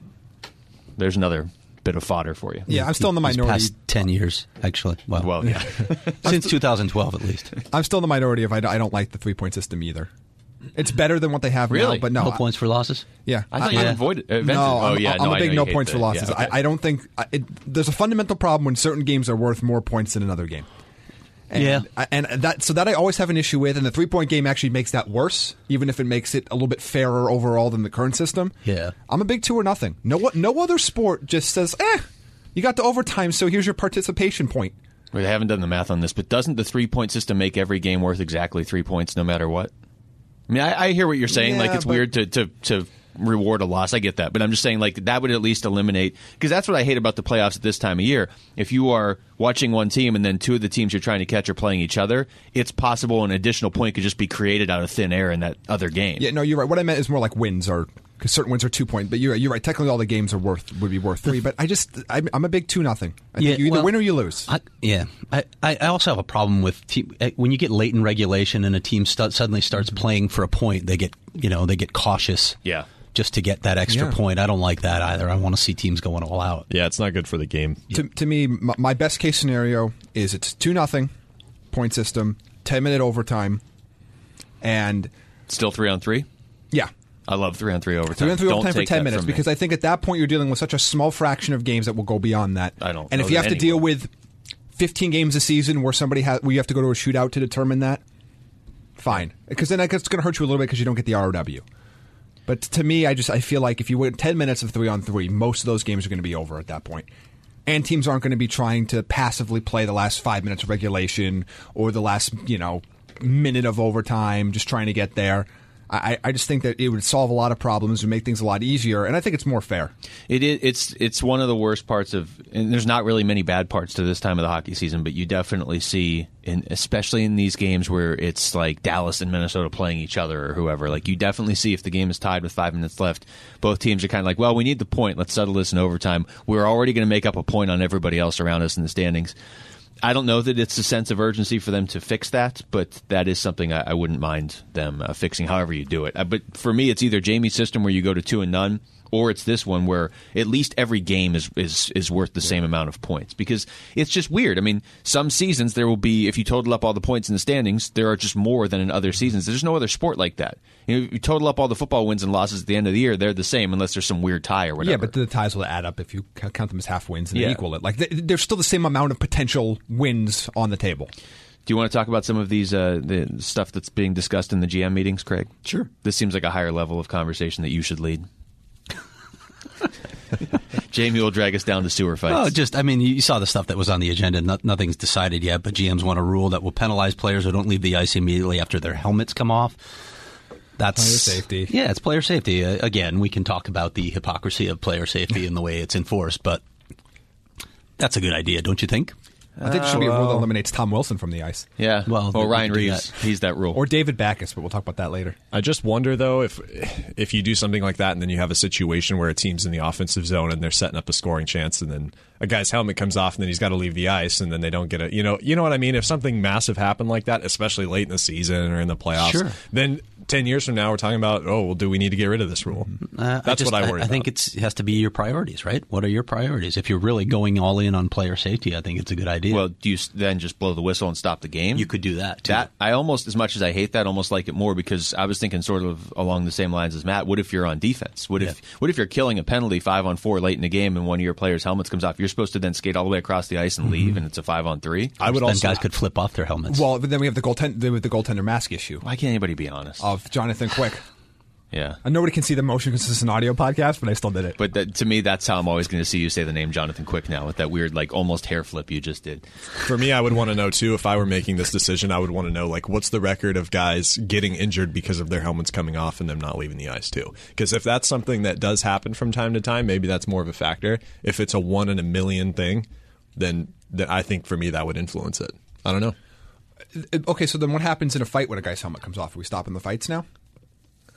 there's another bit of fodder for you. Yeah, I'm still in the These minority. past ten years, actually. Well, Well, yeah. since two thousand twelve at least. I'm still in the minority if I, I don't like the three point system either. It's better than what they have Really? now, but no. No I- points for losses? Yeah, I thought you Yeah. avoided it. No, oh, I'm, yeah, I'm no, a I big know no you hate points the- for losses. yeah, okay. I, I don't think I- it, there's a fundamental problem when certain games are worth more points than another game. And, Yeah. I- and that so that I always have an issue with, and the three point game actually makes that worse, even if it makes it a little bit fairer overall than the current system. Yeah. I'm a big two or nothing. No, no other sport just says, eh, you got to overtime, so here's your participation point. We haven't done the math on this, but doesn't the three-point system make every game worth exactly three points no matter what? I mean, I, I hear what you're saying. Yeah, like, it's but- weird to, to, to reward a loss. I get that. But I'm just saying, like, that would at least eliminate... Because that's what I hate about the playoffs at this time of year. If you are watching one team and then two of the teams you're trying to catch are playing each other, it's possible an additional point could just be created out of thin air in that other game. Yeah, no, you're right. What I meant is more like wins are... Because certain wins are two point, but you're you're right. Technically, all the games are worth would be worth three. But I just I'm, I'm a big two nothing. I think Yeah, you either well, win or you lose. I, yeah, I, I I also have a problem with team, eh, when you get late in regulation and a team st- suddenly starts playing for a point. They get you know they get cautious. Yeah. Just to get that extra Yeah. point. I don't like that either. I want to see teams going all out. Yeah, it's not good for the game. to, to me, my, my best case scenario is it's two nothing point system, ten minute overtime, and Still three on three? yeah, I love three on three overtime. three on three Don't overtime for take ten that minutes from me. because I think at that point you're dealing with such a small fraction of games that will go beyond that. I don't And know if you that have to deal anyone- with fifteen games a season where somebody has where you have to go to a shootout to determine that, fine, because then it's going to hurt you a little bit because you don't get the R O W. But to me, I just I feel like if you win ten minutes of three on three, most of those games are going to be over at that point. And teams aren't going to be trying to passively play the last five minutes of regulation or the last, you know, minute of overtime, just trying to get there. I, I just think that it would solve a lot of problems and make things a lot easier, and I think it's more fair. It is. It's it's one of the worst parts of. And there's not really many bad parts to this time of the hockey season, but you definitely see, in, especially in these games where it's like Dallas and Minnesota playing each other or whoever. Like you definitely see if the game is tied with five minutes left, both teams are kind of like, well, we need the point. Let's settle this in overtime. We're already going to make up a point on everybody else around us in the standings. I don't know that it's a sense of urgency for them to fix that, but that is something I, I wouldn't mind them uh, fixing however you do it. Uh, but for me, it's either Jamie's system where you go to two and none, or it's this one where at least every game is is, is worth the same amount of points. Because it's just weird. I mean, some seasons there will be, if you total up all the points in the standings, there are just more than in other seasons. There's no other sport like that. You know, if you total up all the football wins and losses at the end of the year, they're the same unless there's some weird tie or whatever. Yeah, but the ties will add up if you c- count them as half wins and Yeah. then equal it. Like th- there's still the same amount of potential wins on the table. Do you want to talk about some of these uh, the stuff that's being discussed in the G M meetings, Craig? Sure. This seems like a higher level of conversation that you should lead. Jamie will drag us down to sewer fights. Oh, just I mean, you saw the stuff that was on the agenda. No, nothing's decided yet, but G Ms want a rule that will penalize players who don't leave the ice immediately after their helmets come off. That's Player safety. Yeah, it's player safety. Uh, again, we can talk about the hypocrisy of player safety and the way it's enforced, but that's a good idea, don't you think? I think there should be a rule that eliminates Tom Wilson from the ice. yeah. well, or we Ryan could do Reeves. that. He's that rule. Or David Backus, but we'll talk about that later. I just wonder though if if you do something like that and then you have a situation where a team's in the offensive zone and they're setting up a scoring chance and then a guy's helmet comes off and then he's got to leave the ice and then they don't get a you know you know what I mean, if something massive happened like that, especially late in the season or in the playoffs, Sure. then ten years from now we're talking about, oh well, do we need to get rid of this rule? Uh, That's just- what I worry I think about. it's, it has to be your priorities, right? What are your priorities? If you're really going all in on player safety, I think it's a good idea. well, do you s- then just blow the whistle and stop the game? you could do that, too. That I almost, as much as I hate that, almost like it more because I was thinking sort of along the same lines as Matt. What if you're on defense? What if Yeah. what if you're killing a penalty five on four late in the game and one of your players' helmets comes off? You're supposed to then skate all the way across the ice and Mm-hmm. leave, and it's a five on three. I would then also guys could flip off their helmets. Well, but then we have the goaltender with the goaltender mask issue Why can't anybody be honest? of Jonathan Quick. yeah. And nobody can see the motion because it's an audio podcast, but I still did it. But that, to me, that's how I'm always going to see you say the name Jonathan Quick now with that weird, like, almost hair flip you just did. For me, I would want to know too, if I were making this decision, I would want to know like what's the record of guys getting injured because of their helmets coming off and them not leaving the ice too. Because if that's something that does happen from time to time, maybe that's more of a factor. If it's a one in a million thing, then then I think for me that would influence it. I don't know. Okay, so then what happens in a fight when a guy's helmet comes off? Are we stopping the fights now?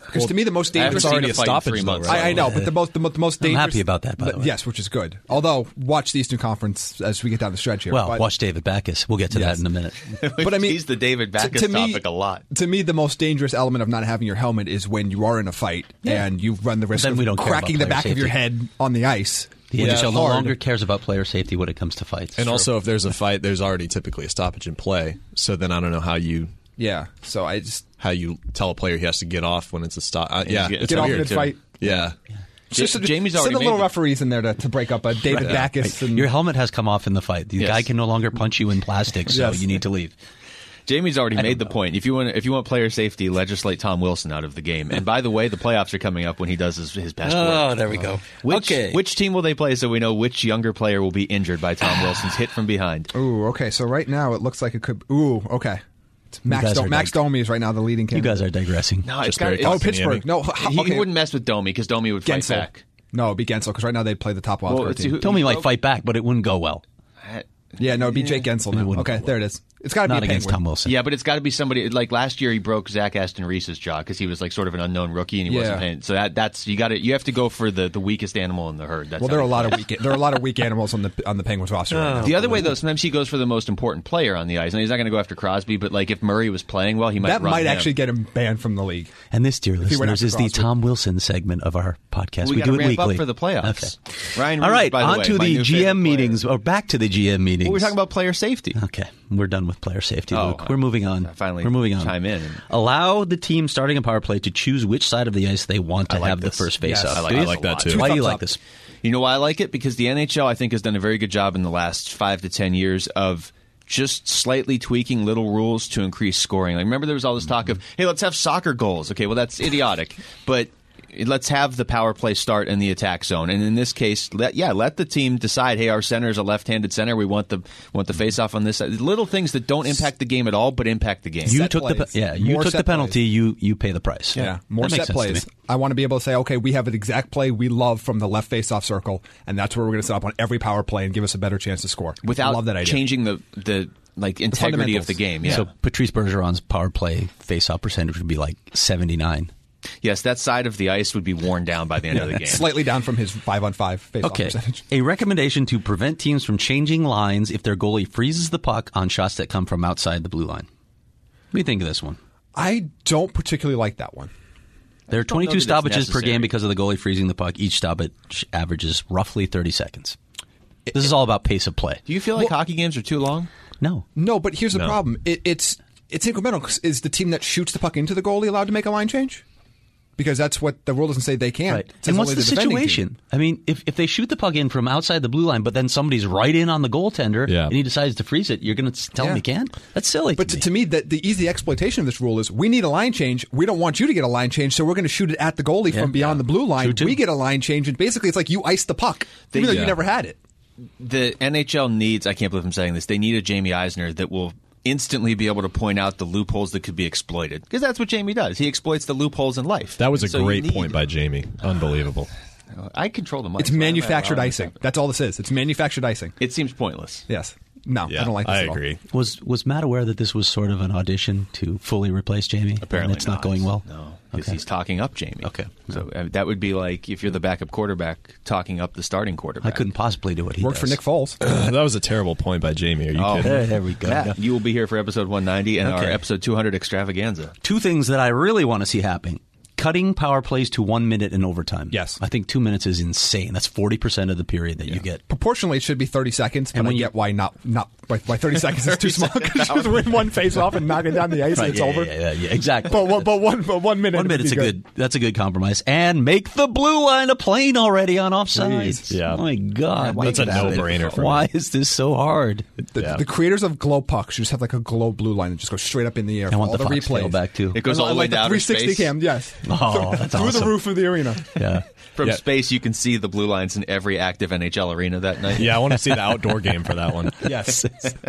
Because to me, the most I haven't dangerous seen already a a fight in stoppage, three though, months. right? I, I know, but the most the, mo- the most I'm dangerous. happy about that, by the way. Yes, which is good. Although, watch the Eastern Conference as we get down the stretch here. Well, but, watch David Backus. We'll get to Yes. that in a minute. But I mean, he's the David Backus to me- topic a lot. To me, the most dangerous element of not having your helmet is when you are in a fight Yeah. and you run the risk then of we don't care cracking the about player back of your safety. head on the ice. The which N is H L no hard. longer cares about player safety when it comes to fights. And also, if there's a fight, there's already typically a stoppage in play. So then I don't know how you Yeah. So I just how you tell a player he has to get off when it's a stop. Uh, yeah, get- it's get off weird. mid-fight. Yeah. Just, just Jamie's send already the little made the- referees in there to, to break up a David Backus. And, Your helmet has come off in the fight. The Yes. guy can no longer punch you in plastic, so Yes. you need to leave. Jamie's already don't made the know. point. If you want, if you want player safety, legislate Tom Wilson out of the game. And by the way, the playoffs are coming up when he does his, his best work. Oh, there we go. Which, okay. which team will they play so we know which younger player will be injured by Tom Wilson's hit from behind? Ooh, okay. So right now it looks like it could. Ooh, okay. It's Max guys Do- are Max dig- Domi is right now the leading you candidate. guys are digressing. No, it's Just got very to. Oh, Austin Pittsburgh. Yemi. No, He, okay. he wouldn't mess with Domi because Domi would fight Gensel. back. No, it'd be Gensel because right now they'd play the top wild Well, card it's team. who- Tommy might Oh. fight back, but it wouldn't go well. Yeah, no, it'd be Jake Gensel now. wouldn't Okay, go there it is. It's got to be Not a against Penguin. Tom Wilson. Yeah, but it's got to be somebody like last year. He broke Zach Aston Reese's jaw because he was like sort of an unknown rookie and he Yeah. wasn't paying. So that that's you got to you have to go for the, the weakest animal in the herd. That's Well, how there are a you lot play. of weak. There are a lot of weak animals on the on the Penguins roster right now. The other way, though, sometimes he goes for the most important player on the ice. And he's not going to go after Crosby, but like if Murray was playing well, he might That run might him. actually get him banned from the league. And this, dear he went listeners, after is the Crosby. Tom Wilson segment of our podcast. We We, gotta do it ramp weekly up for the playoffs. Okay. Ryan All Reeves, right, by the on way, to my the new G favorite M player. meetings, or back to the G M meetings. Well, we're talking about player safety. Okay, we're done with player safety, Oh, Luke. We're moving on. I finally we're moving on. chime in. Allow the team starting a power play to choose which side of the ice they want to I like have this. the first Yes. face-off. I like- Do I you? like that, too. Two Why do you thumbs like up. this? You know why I like it? Because the N H L, I think, has done a very good job in the last five to ten years of just slightly tweaking little rules to increase scoring. Like, remember there was all this talk of, hey, let's have soccer goals. Okay, well, that's idiotic. But let's have the power play start in the attack zone. And in this case, let, yeah, let the team decide, hey, our center is a left-handed center. We want the want the face-off on this side. Little things that don't impact the game at all, but impact the game. You Set took the plays. pe- yeah. You More took set the penalty. plays. You you pay the price. Yeah, more That makes set sense to plays. me. I want to be able to say, okay, we have an exact play we love from the left face-off circle, and that's where we're going to set up on every power play and give us a better chance to score. Without love that idea. changing the, the like integrity of fundamentals. the game. Yeah. So Patrice Bergeron's power play face-off percentage would be like seventy-nine. yes, that side of the ice would be worn down by the end of the game. Slightly down from his five-on-five face-off Okay. percentage. A recommendation to prevent teams from changing lines if their goalie freezes the puck on shots that come from outside the blue line. What do you think of this one? I don't particularly like that one. There are don't know twenty-two that it's stoppages per necessary. game because of the goalie freezing the puck. Each stoppage averages roughly thirty seconds. This is all about pace of play. Do you feel like hockey games are too long? No. No, but here's the No. problem. It, it's it's incremental. 'Cause Is the team that shoots the puck into the goalie allowed to make a line change? Because that's what the rule doesn't say they can't. Right. It says And what's only the defending situation? team. I mean, if, if they shoot the puck in from outside the blue line, but then somebody's right in on the goaltender Yeah. and he decides to freeze it, you're going to tell Yeah. him he can? That's silly. But to to, me. to me, the, the easy exploitation of this rule is we need a line change. We don't want you to get a line change, so we're going to shoot it at the goalie Yeah. from beyond the blue line. True, too. We get a line change, and basically it's like you ice the puck, They- even though yeah. you never had it. The N H L needs, I can't believe I'm saying this, they need a Jamie Eisner that will instantly be able to point out the loopholes that could be exploited. Because that's what Jamie does. He exploits the loopholes in life. That was a So you great need- point by Jamie. Unbelievable. I control the mic. It's so why am I manufactured allowing this to icing. happen? That's all this is. It's manufactured icing. It seems pointless. Yes. No, Yeah, I don't like this I at all. agree. Was was Matt aware that this was sort of an audition to fully replace Jamie? Apparently and it's not, going well. No, because Okay. he's talking up Jamie. Okay. So uh, that would be like if you're the backup quarterback talking up the starting quarterback. I couldn't possibly do what he Worked for does. Nick Foles. that was a terrible point by Jamie. Are you Oh. kidding? There, there we go. Matt, you will be here for episode one ninety and Okay. our episode two hundred extravaganza. Two things that I really want to see happening. Cutting power plays to one minute in overtime. Yes. I think two minutes is insane. That's forty percent of the period that you get. Proportionally, it should be thirty seconds, but And I when you- get why not. Not why, why thirty seconds is too small. Because you just win one face off and knock it down the ice, and it's yeah, over. Yeah, yeah, yeah, exactly. But one, but one, but one minute. One would minute's be a good. That's a good compromise. And make the blue line a plane already on offsides. Please. Yeah. Oh my God, That's make a it happen. no-brainer for me. Why is this so hard? The, Yeah. the creators of glow pucks should just have like a glow blue line and just go straight up in the air. I for want all the the Fox tail replays back too. It goes I all the way like the down three to sixty space. cam. Yes. Oh, that's through the awesome. roof of the arena. Yeah. From Yeah. space, you can see the blue lines in every active N H L arena that night. Yeah, I want to see the outdoor game for that one. Yes.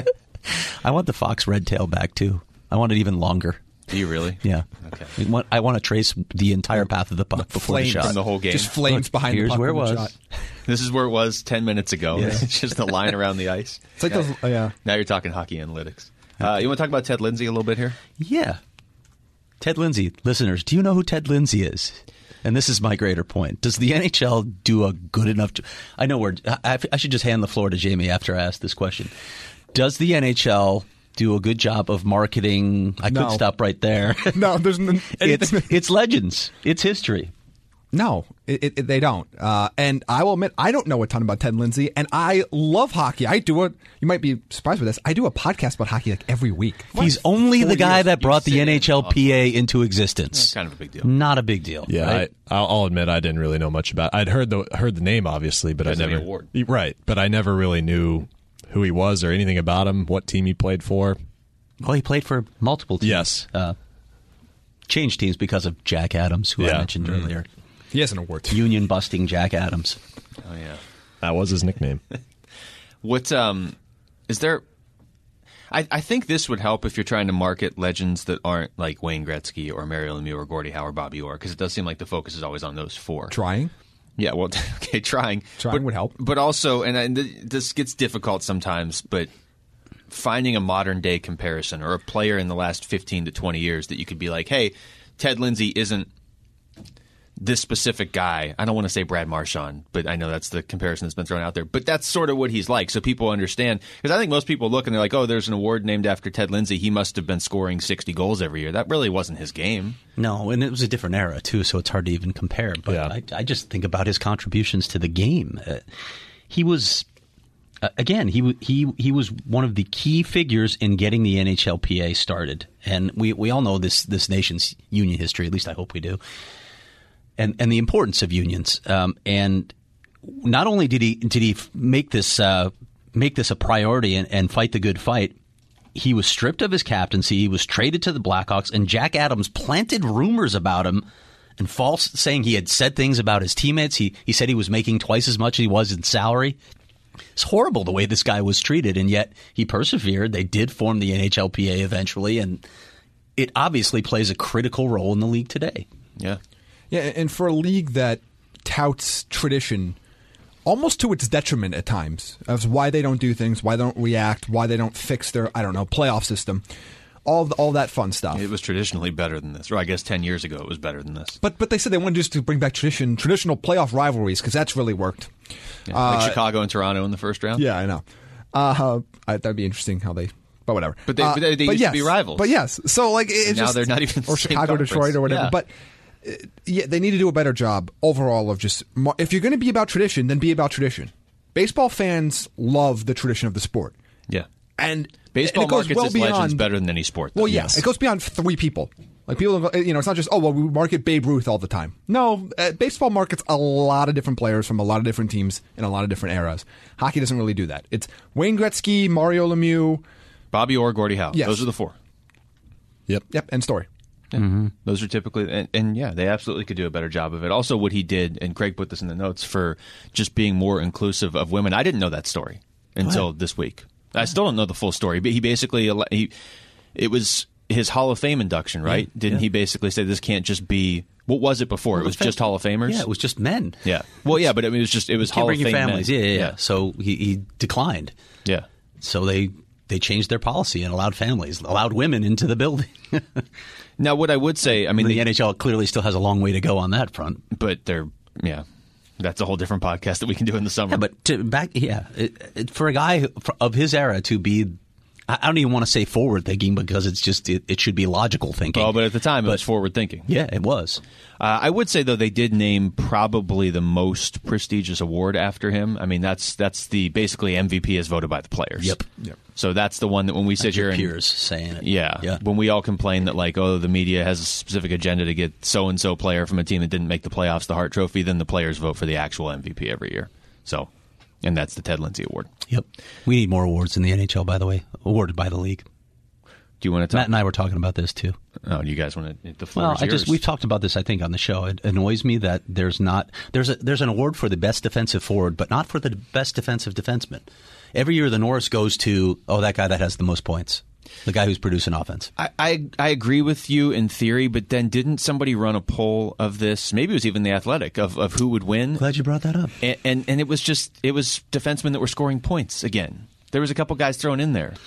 I want the Fox red tail back too. I want it even longer. Do you really? Yeah. Okay. I want, I want to trace the entire path of the puck before the Flames shot. from the whole game. Just flames Look, behind here's the puck. where it when the was. shot. This is where it was ten minutes ago. Yeah. It's just the line around the ice. It's like those. Uh, yeah. Now you're talking hockey analytics. Uh, you want to talk about Ted Lindsay a little bit here? Yeah. Ted Lindsay, listeners, do you know who Ted Lindsay is? And this is my greater point. Does the N H L do a good enough... Jo- I know we're... I, I should just hand the floor to Jamie after I ask this question. Does the N H L do a good job of marketing? I No. could stop right there. No, there's n- it's, it's legends. It's history. No, it, it, they don't. Uh, and I will admit, I don't know a ton about Ted Lindsay, and I love hockey. I do it. You might be surprised with this. I do a podcast about hockey like every week. He's only the guy years that brought you the sit N H L P A in into existence. That's kind of a big deal. Not a big deal. Yeah, right? I, I'll I'll admit I didn't really know much about. I'd heard the heard the name obviously, but I Because of the never award. right. But I never really knew who he was or anything about him, what team he played for. Well, he played for multiple teams. Yes. Uh, changed teams because of Jack Adams, who I Yeah. mentioned Mm. earlier. He has an award. too. Union busting Jack Adams. Oh yeah. That was his nickname. What um is there? I, I think this would help if you're trying to market legends that aren't like Wayne Gretzky or Mario Lemieux or Gordie Howe or Bobby Orr, because it does seem like the focus is always on those four. Trying. Yeah, well, okay, trying. Trying but, would help. But also, and, and th- this gets difficult sometimes, but finding a modern day comparison or a player in the last fifteen to twenty years that you could be like, hey, Ted Lindsay isn't this specific guy. I don't want to say Brad Marchand, but I know that's the comparison that's been thrown out there. But that's sort of what he's like, so people understand. Because I think most people look and they're like, oh, there's an award named after Ted Lindsay. He must have been scoring sixty goals every year. That really wasn't his game. No, and it was a different era, too, so it's hard to even compare. But Yeah. I, I just think about his contributions to the game. Uh, he was, uh, again, he, w- he, he was one of the key figures in getting the N H L P A started. And we, we all know this, this nation's union history, at least I hope we do. And and the importance of unions, um, and not only did he did he make this uh, make this a priority and, and fight the good fight, he was stripped of his captaincy. He was traded to the Blackhawks, and Jack Adams planted rumors about him and false saying he had said things about his teammates. He he said he was making twice as much as he was in salary. It's horrible the way this guy was treated, and yet he persevered. They did form the N H L P A eventually, and it obviously plays a critical role in the league today. Yeah. Yeah, and for a league that touts tradition almost to its detriment at times, of why they don't do things, why they don't react, why they don't fix their, I don't know, playoff system, all all that fun stuff. It was traditionally better than this. Or I guess ten years ago it was better than this. But but they said they wanted just to bring back tradition, traditional playoff rivalries, because that's really worked. Yeah, like Chicago and Toronto in the first round. Yeah, I know. Uh, I, that'd be interesting how they, but whatever. But they- Uh, but they- they used to yes, be rivals. But yes, so like it- it's now just, they're not even the or same Chicago, conference. Detroit, or whatever. Yeah. But uh, yeah, they need to do a better job overall of just mar- if you're going to be about tradition, then be about tradition. Baseball fans love the tradition of the sport, Yeah. and Baseball and it goes markets well its legends beyond- better than any sport. though. Well, yeah, Yes. it goes beyond three people. Like people, don't go- you know, it's not just oh well, we market Babe Ruth all the time. No, uh, baseball markets a lot of different players from a lot of different teams in a lot of different eras. Hockey doesn't really do that. It's Wayne Gretzky, Mario Lemieux. Bobby Orr, Gordie Howe. Yes. Those are the four. Yep. Yep, end story. Yeah. Those are typically, and, and yeah, they absolutely could do a better job of it. Also, what he did, and Craig put this in the notes, for just being more inclusive of women. I didn't know that story until this week. I still don't know the full story, but he basically, he, it was his Hall of Fame induction, right? Didn't he basically say this can't just be, what was it before? It was just Hall of Famers? Yeah, it was just men. Yeah. Well, yeah, but I mean, it was just, it was Can't Hall bring of your Fame families. men. Yeah, yeah, yeah. So he, he declined. Yeah. So they they changed their policy and allowed families, allowed women into the building. Now, what I would say, I mean, the the, N H L clearly still has a long way to go on that front. but they're, yeah, that's a whole different podcast that we can do in the summer. Yeah, but to back, yeah, it, it, for a guy who- for, of his era to be, I I don't even want to say forward thinking because it's just it, it should be logical thinking. well, but at the time, it was forward thinking. yeah, it was. Uh, I would say though they did name probably the most prestigious award after him. I mean that's that's the basically M V P is voted by the players. Yep. Yep. So that's the one that when we sit That's here your and peers saying it. yeah, yeah. when we all complain that like oh the media has a specific agenda to get so and so player from a team that didn't make the playoffs the Hart Trophy, then the players vote for the actual M V P every year. So, and that's the Ted Lindsay Award. Yep. We need more awards in the N H L, by the way, awarded by the league. Do you want to talk? Matt and I were talking about this too. Oh, do you guys want to? The floor Well, is I yours. just we've talked about this I think on the show. It annoys me that there's not there's a there's an award for the best defensive forward, but not for the best defensive defenseman. Every year the Norris goes to oh that guy that has the most points, the guy who's producing offense. I, I I agree with you in theory, but then didn't somebody run a poll of this? Maybe it was even the Athletic of, of who would win, Glad you brought that up. and, and and it was just it was defensemen that were scoring points again. There was a couple guys thrown in there.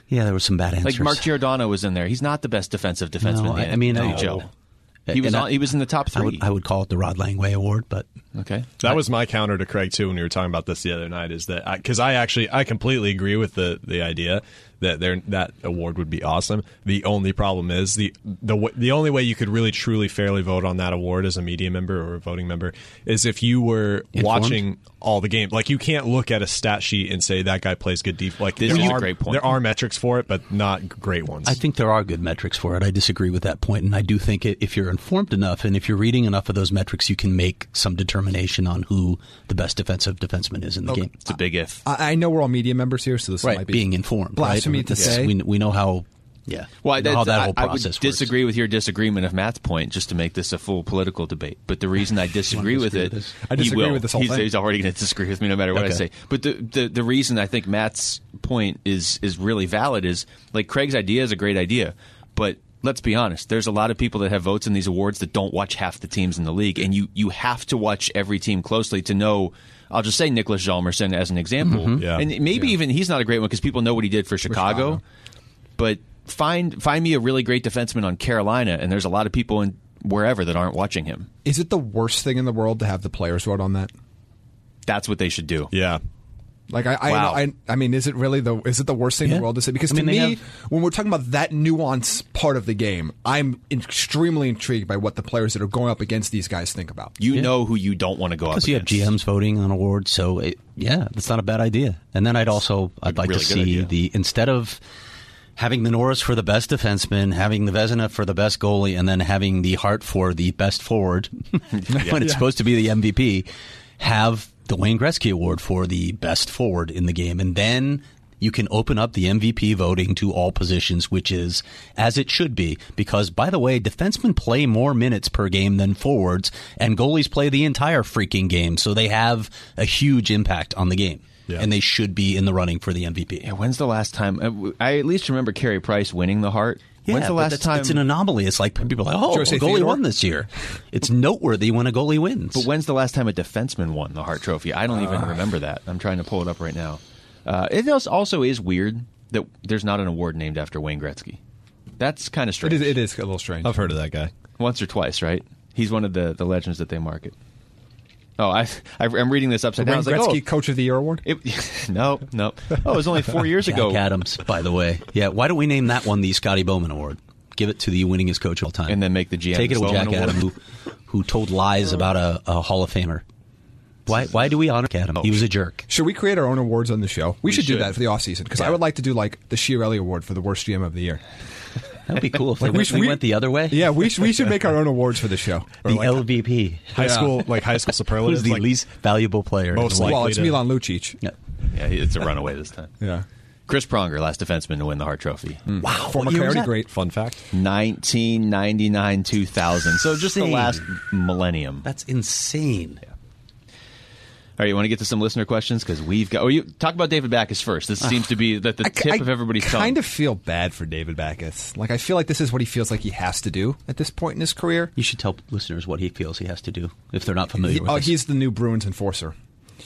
Yeah, there were some bad answers. Like Mark Giordano was in there. He's not the best defensive defenseman No, in the I- I mean, N I- H L. He And was I- on, he was in the top I three. would, I would call it the Rod Langway Award, but okay. That was my counter to Craig too when we were talking about this the other night. Is that because I, I actually I completely agree with the the idea that there that award would be awesome. The only problem is the the w- the only way you could really truly fairly vote on that award as a media member or a voting member is if you were Informed? watching all the games. Like you can't look at a stat sheet and say that guy plays good defense. Like This there is a are, great point. There are metrics for it, but not great ones. I think there are good metrics for it. I disagree with that point, and I do think it, if you're informed enough and if you're reading enough of those metrics, you can make some determination on who the best defensive defenseman is in the game. It's a big if. I, I know we're all media members here, so this Right, might be being informed. blasphemy right? to It's- say. We, we know how. Yeah, Well, we know how that's- that whole I, I process would works. disagree with your disagreement of Matt's point, just to make this a full political debate. But the reason I disagree with disagree it, with this? I he disagree will. with this whole he's, thing. he's already going to disagree with me no matter what I Okay. say. But the, the the reason I think Matt's point is is really valid is like Craig's idea is a great idea, but let's be honest. There's a lot of people that have votes in these awards that don't watch half the teams in the league, and you you have to watch every team closely to know. I'll just say Nicholas Hjalmarsson as an example, Mm-hmm. Yeah. and maybe even he's not a great one because people know what he did for Chicago. Chicago. But find find me a really great defenseman on Carolina, and there's a lot of people in wherever that aren't watching him. Is it the worst thing in the world to have the players vote on that? That's what they should do. yeah. Like I, Wow. I, I, I mean, is it really the is it the worst thing in Yeah. the world to say? Because I mean, to they me, have- when we're talking about that nuance part of the game, I'm extremely intrigued by what the players that are going up against these guys think about. You know who you don't want to go up Because you have against. G Ms voting on awards, so it, yeah, that's not a bad idea. And then I'd also I'd like really to good see idea. the instead of having the Norris for the best defenseman, having the Vezina for the best goalie, and then having the Hart for the best forward when it's supposed to be the M V P, have the Wayne Gretzky Award for the best forward in the game, and then you can open up the M V P voting to all positions, which is as it should be. Because, by the way, defensemen play more minutes per game than forwards, and goalies play the entire freaking game, so they have a huge impact on the game. Yeah. And they should be in the running for the M V P. Yeah, when's the last time? uh, I at least remember Carey Price winning the Hart. when's the but last that's- time? It's an anomaly. It's like people are like, oh, a Jose goalie Theodore? won this year. It's noteworthy when a goalie wins. But when's the last time a defenseman won the Hart Trophy? I don't even remember that. I'm trying to pull it up right now. Uh, it als- also is weird that there's not an award named after Wayne Gretzky. That's kind of It strange. is, it is a little strange. I've heard of that guy. Once or twice, right? He's one of the, the legends that they market. Oh, I, I I'm reading this The upside down. I Wayne was like, Gretzky oh, Coach of the Year award. it, no, no. Oh, it was only four years Jack ago. Adams, by the way. Yeah, why don't we name that one the Scotty Bowman Award? Give it to the winningest coach of all time. And then make the G M Take it with Bowman Jack Award. Adams, who, who told lies about a, a Hall of Famer. Why Why do we honor Adam? He was a jerk. Should we create our own awards on the show? We, should, do should. that for the off season because I would like to do like the Chiarelli Award for the worst G M of the year. That would be cool if Like, we, we went, should- we we- went the other way. Yeah, we should, we should make our own awards for the show. Or The like L V P. high school, like high school Who's superlatives. the like, least valuable player? in Most the league? Well, likely it's to- Milan Lucic. Yeah. Yeah, it's a runaway this time. Yeah. Chris Pronger, last defenseman to win the Hart Trophy. Wow. Former what year was Coyote that? great. Fun fact. nineteen ninety-nine two thousand. So just the Insane. last millennium. That's insane. All right, you want to get to some listener questions? Because we've got. Oh, you talk about David Backus first. This seems to be that the I, tip I of everybody's kind tongue. of feel bad for David Backus. Like I feel like this is what he feels like he has to do at this point in his career. You should tell listeners what he feels he has to do if they're not familiar He- with oh, this. he's the new Bruins enforcer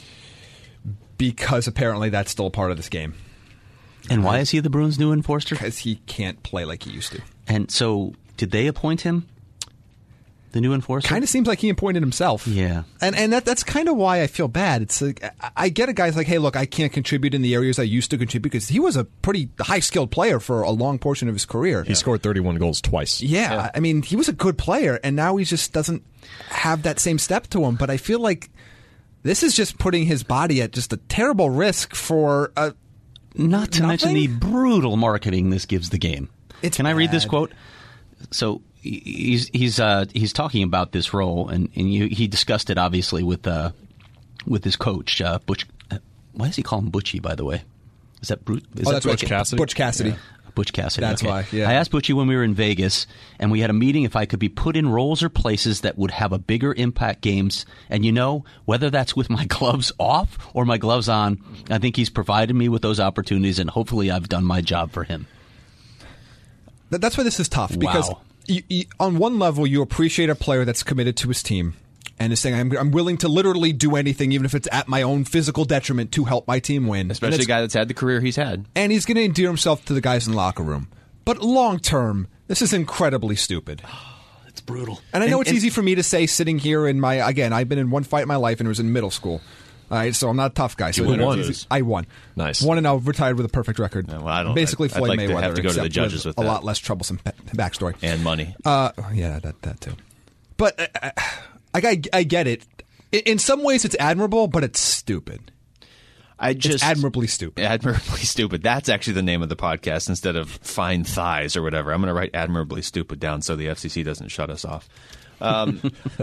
because apparently that's still a part of this game And why is he the Bruins' new enforcer? because he can't play like he used to. And so, did they appoint him, the new enforcer? Kind of seems like he appointed himself. Yeah. And and that that's kind of why I feel bad. It's like I- I get a guy's like, hey, look, I can't contribute in the areas I used to contribute because he was a pretty high skilled player for a long portion of his career. He scored thirty-one goals twice. Yeah, I mean, he was a good player, and now he just doesn't have that same step to him. But I feel like this is just putting his body at just a terrible risk for a. Not to mention the Nothing? brutal marketing this gives the game. It's Can I read this bad. quote? So he- he's he's uh, he's talking about this role, and, and you, he discussed it obviously with uh, with his coach uh, Butch. Uh, why does he call him Butchie? By the way, is that Bru- is Oh, that that's Butch right. Cassidy? Butch Cassidy. Butch Cassidy. That's okay. why, yeah. I asked Butchie when we were in Vegas, and we had a meeting if I could be put in roles or places that would have a bigger impact games. And you know, whether that's with my gloves off or my gloves on, I think he's provided me with those opportunities, and hopefully I've done my job for him. That- That's why this is tough because Wow. you, you, on one level you appreciate a player that's committed to his team, and is saying, I'm, I'm willing to literally do anything, even if it's at my own physical detriment, to help my team win. Especially a guy that's had the career he's had. And he's going to endear himself to the guys in the locker room. But long term, this is incredibly stupid. It's brutal. And I know and, it's and, easy for me to say sitting here in my, again, I've been in one fight in my life and it was in middle school. All right, so I'm not a tough guy. So You it's won. easy. I won. Nice. Won and I retired with a perfect record. Yeah, well, I don't- Basically I'd- I'd Floyd like to Mayweather. have to go to the except judges with a that. lot less troublesome pa- backstory. And money. Uh, yeah, that that too. But uh, I, I, I get it. In- In some ways, it's admirable, but it's stupid. I just It's admirably stupid. Admirably stupid. That's actually the name of the podcast instead of Fine Thighs or whatever. I'm going to write admirably stupid down so the F C C doesn't shut us off. Um,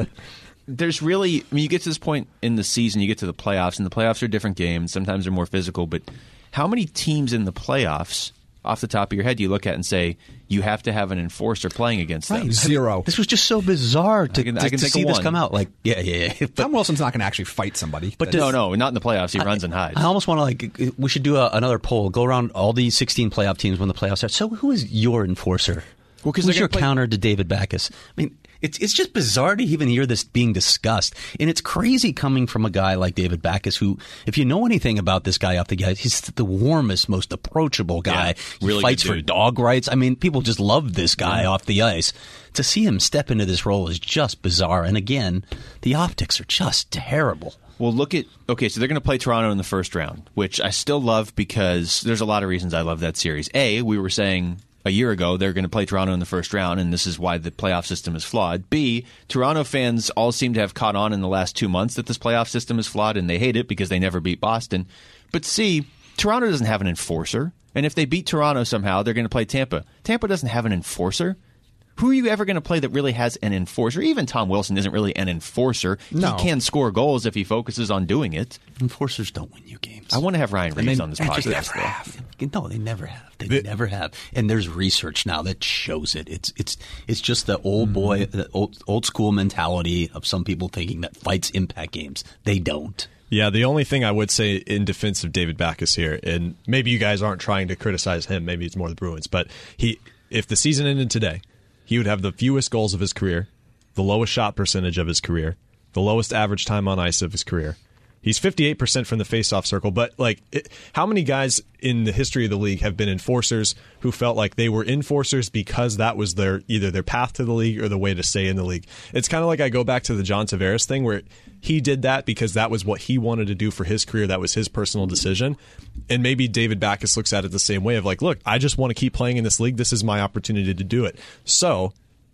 there's really, I mean, you get to this point in the season, you get to the playoffs, and the playoffs are different games. Sometimes they're more physical, but how many teams in the playoffs, off the top of your head, do you look at and say you have to have an enforcer playing against them? Right. Zero. This was just so bizarre to, I can- to, I can to think see of this one. come out. Like, yeah, yeah, yeah. But Tom Wilson's not going to actually fight somebody. But That's- No, no, not in the playoffs. He runs and hides. I almost want to like. We should do a, another poll. Go around all these sixteen playoff teams when the playoffs start. So, who is your enforcer? Well, 'cause who's they're your gonna play- counter to David Backus? I mean, it's it's just bizarre to even hear this being discussed, and it's crazy coming from a guy like David Backus, who, if you know anything about this guy off the ice, he's the warmest, most approachable guy. Yeah, really he fights good for dude. dog rights. I mean, people just love this guy off the ice. To see him step into this role is just bizarre, and again, the optics are just terrible. Well, look at, okay, so they're going to play Toronto in the first round, which I still love because there's a lot of reasons I love that series. A, we were saying a year ago they're going to play Toronto in the first round, and this is why the playoff system is flawed. B, Toronto fans all seem to have caught on in the last two months that this playoff system is flawed, and they hate it because they never beat Boston. But C, Toronto doesn't have an enforcer, and if they beat Toronto somehow, they're going to play Tampa. Tampa doesn't have an enforcer. Who are you ever going to play that really has an enforcer? Even Tom Wilson isn't really an enforcer. No. He can score goals if he focuses on doing it. Enforcers don't win you games. I want to have Ryan Reeves they- on this they just podcast. never though. have. No, they never have. They never have. And there's research now that shows it. It's it's it's just the old boy, the old old school mentality of some people thinking that fights impact games. They don't. Yeah, the only thing I would say in defense of David Backus here, and maybe you guys aren't trying to criticize him, maybe it's more the Bruins, but he, if the season ended today, he would have the fewest goals of his career, the lowest shot percentage of his career, the lowest average time on ice of his career. He's fifty-eight percent from the faceoff circle, but like, it, how many guys in the history of the league have been enforcers who felt like they were enforcers because that was their either their path to the league or the way to stay in the league? It's kind of like I go back to the John Tavares thing where he did that because that was what he wanted to do for his career. That was his personal decision. And maybe David Backus looks at it the same way of like, look, I just want to keep playing in this league. This is my opportunity to do it. So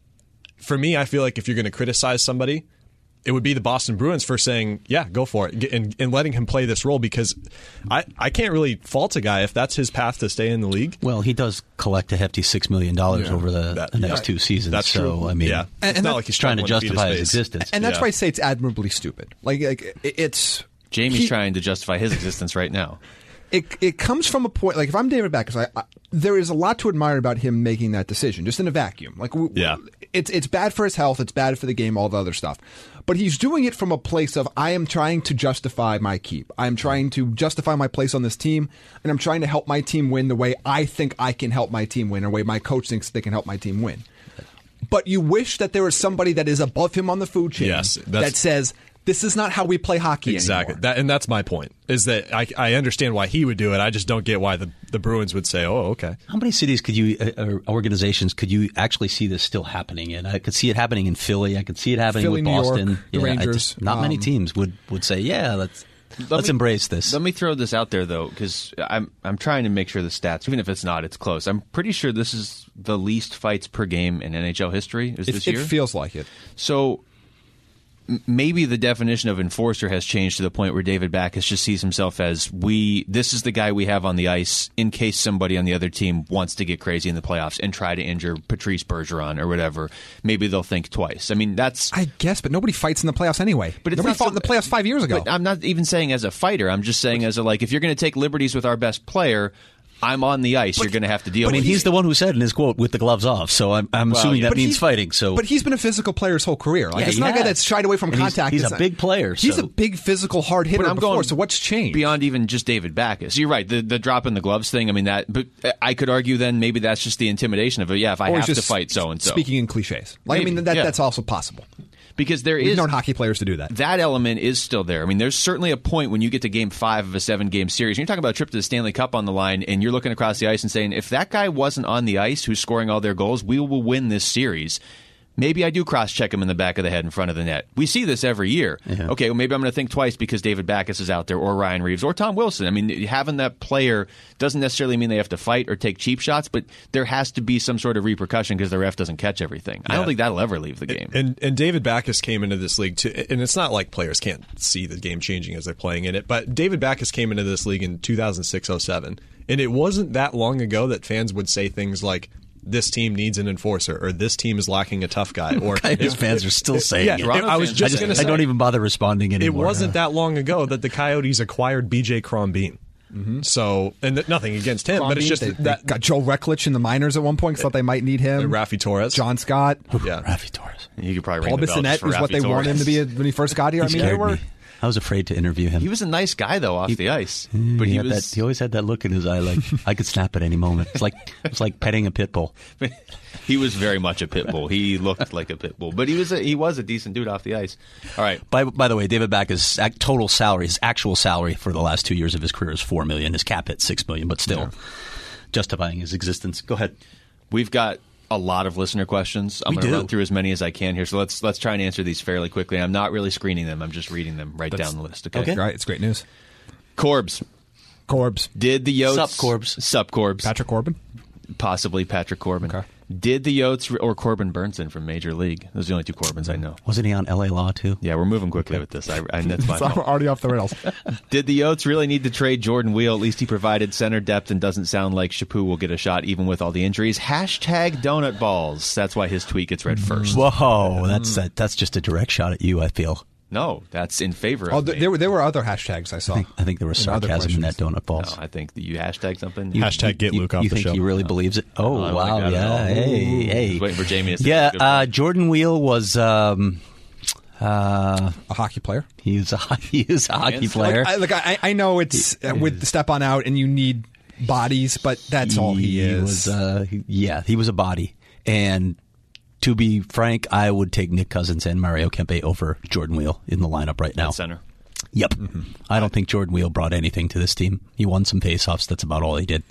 for me, I feel like if you're going to criticize somebody, it would be the Boston Bruins for saying, yeah, go for it, and, and letting him play this role, because I, I can't really fault a guy if that's his path to stay in the league. Well, he does collect a hefty six million dollars Yeah. over the, That- the next yeah. two seasons. That's so, true. I mean, yeah. And- it's and not that- like he's trying to struggling feed justify his face. existence. And that's Yeah. why I say it's admirably stupid. Like, like it- it's Jamie's he- trying to justify his existence right now. It it comes from a point, like if I'm David Backus, I, I, there is a lot to admire about him making that decision, just in a vacuum. Like, w- Yeah. it's it's bad for his health, it's bad for the game, all the other stuff. But he's doing it from a place of, I am trying to justify my keep. I am trying to justify my place on this team, and I'm trying to help my team win the way I think I can help my team win, or the way my coach thinks they can help my team win. But you wish that there was somebody that is above him on the food chain Yes, that's- that says, this is not how we play hockey Exactly. anymore. That, and that's my point, is that I, I understand why he would do it. I just don't get why the, the Bruins would say, oh, okay. how many cities could you, uh, or organizations, could you actually see this still happening in? I could see it happening in Philly. I could see it happening Philly, with New York, Boston. the I Rangers, just- not many um, teams would, would say, yeah, let's let's me- embrace this. Let me throw this out there, though, because I'm I'm trying to make sure the stats, even if it's not, it's close. I'm pretty sure this is the least fights per game in N H L history. Is It, this it year? feels like it. So m- maybe the definition of enforcer has changed to the point where David Backus just sees himself as, we. This is the guy we have on the ice in case somebody on the other team wants to get crazy in the playoffs and try to injure Patrice Bergeron or whatever. Maybe they'll think twice. I mean, that's. I guess, but nobody fights in the playoffs anyway. But it's nobody not fought so- in the playoffs five years ago. But I'm not even saying as a fighter. I'm just saying as a, like, if you're going to take liberties with our best player, I'm on the ice. You're going to have to deal I mean, with he's it. the one who said in his quote, with the gloves off. So I'm, I'm Well, assuming yeah. that But means he- fighting. So, But he's been a physical player his whole career. Like, Yeah, it's he not a guy has. that's shied away from And he's- contact. he's It's a not- big player, He's so- a big physical hard hitter But I'm before, going so what's changed? beyond even just David Backus. You're right. The the drop in the gloves thing. I mean that. But I could argue then maybe that's just the intimidation of it. Yeah, if I Or have he's to just fight so and so. Speaking in cliches. Like, I Maybe, mean, that, yeah. that's also possible. because there We've is known hockey players to do that. That element is still there. I mean, there's certainly a point when you get to game five of a seven-game series. And you're talking about a trip to the Stanley Cup on the line, and you're looking across the ice and saying, if that guy wasn't on the ice who's scoring all their goals, we will win this series. Maybe I do cross-check him in the back of the head in front of the net. We see this every year. Yeah. Okay, well, maybe I'm going to think twice because David Backes is out there, or Ryan Reeves, or Tom Wilson. I mean, having that player doesn't necessarily mean they have to fight or take cheap shots, but there has to be some sort of repercussion because the ref doesn't catch everything. Yeah. I don't think that'll ever leave the game. And, and, and David Backes came into this league, too, and it's not like players can't see the game changing as they're playing in it, but David Backes came into this league in two thousand six oh seven, and it wasn't that long ago that fans would say things like, this team needs an enforcer, or this team is lacking a tough guy. Or Coyotes fans are still saying yeah, it. I was just, just going to say, I don't even bother responding anymore. It wasn't that long ago that the Coyotes acquired B J Crombeen. Mm-hmm. So, and th- nothing against him, Crombeen, but it's just they, that they got Joe Reklich in the minors at one point. Thought they might need him. Raffi Torres, John Scott, yeah, Raffi Torres. You could probably Paul Bissonnette is what they Torres. wanted him to be when he first got here. He I mean, they were. Me. I was afraid to interview him. He was a nice guy, though, off he, the ice. But he, he had was. That, he always had that look in his eye, like I could snap at any moment. It's like it's like petting a pit bull. He was very much a pit bull. He looked like a pit bull, but he was a, he was a decent dude off the ice. All right. By by the way, David Backes' total salary, his actual salary for the last two years of his career is four million. His cap hit six million, but still yeah. justifying his existence. Go ahead. We've got a lot of listener questions. I'm going to run through as many as I can here. So let's let's try and answer these fairly quickly. I'm not really screening them. I'm just reading them right That's, down the list. Okay. okay. Right. It's great news. Corbs. Corbs. Did the Yotes... Sup, Corbs. Sup, Corbs. Patrick Corbin? Possibly Patrick Corbin. Okay. Did the Yotes or Corbin Burnson from Major League? Those are the only two Corbins I know. Wasn't he on L A Law, too? Yeah, we're moving quickly okay. with this. I, I, that's my fault. Already off the rails. Did the Yotes really need to trade Jordan Wheel? At least he provided center depth and doesn't sound like Chaput will get a shot even with all the injuries. Hashtag donut balls. That's why his tweet gets read first. Whoa, that's that, that's just a direct shot at you, I feel. No, that's in favor of oh, me. There were there were other hashtags I saw. I think, I think there was sarcasm in that donut balls. No, I think you hashtag something. You, hashtag get you, Luke off you the think show. he really believes it? Oh, oh wow, yeah. Hey, hey. I was waiting for Jamie to say Yeah, uh, Jordan Wheel was... Um, uh, a hockey player. He was a, he was a hockey player. Like, I, like I, I know it's uh, with the step on out and you need bodies, but that's he, all he is. He was, uh, he, yeah, he was a body. And... To be frank, I would take Nick Cousins and Mario Kempe over Jordan Wheel in the lineup right now. At center. Yep. Mm-hmm. I don't think Jordan Wheel brought anything to this team. He won some faceoffs. That's about all he did.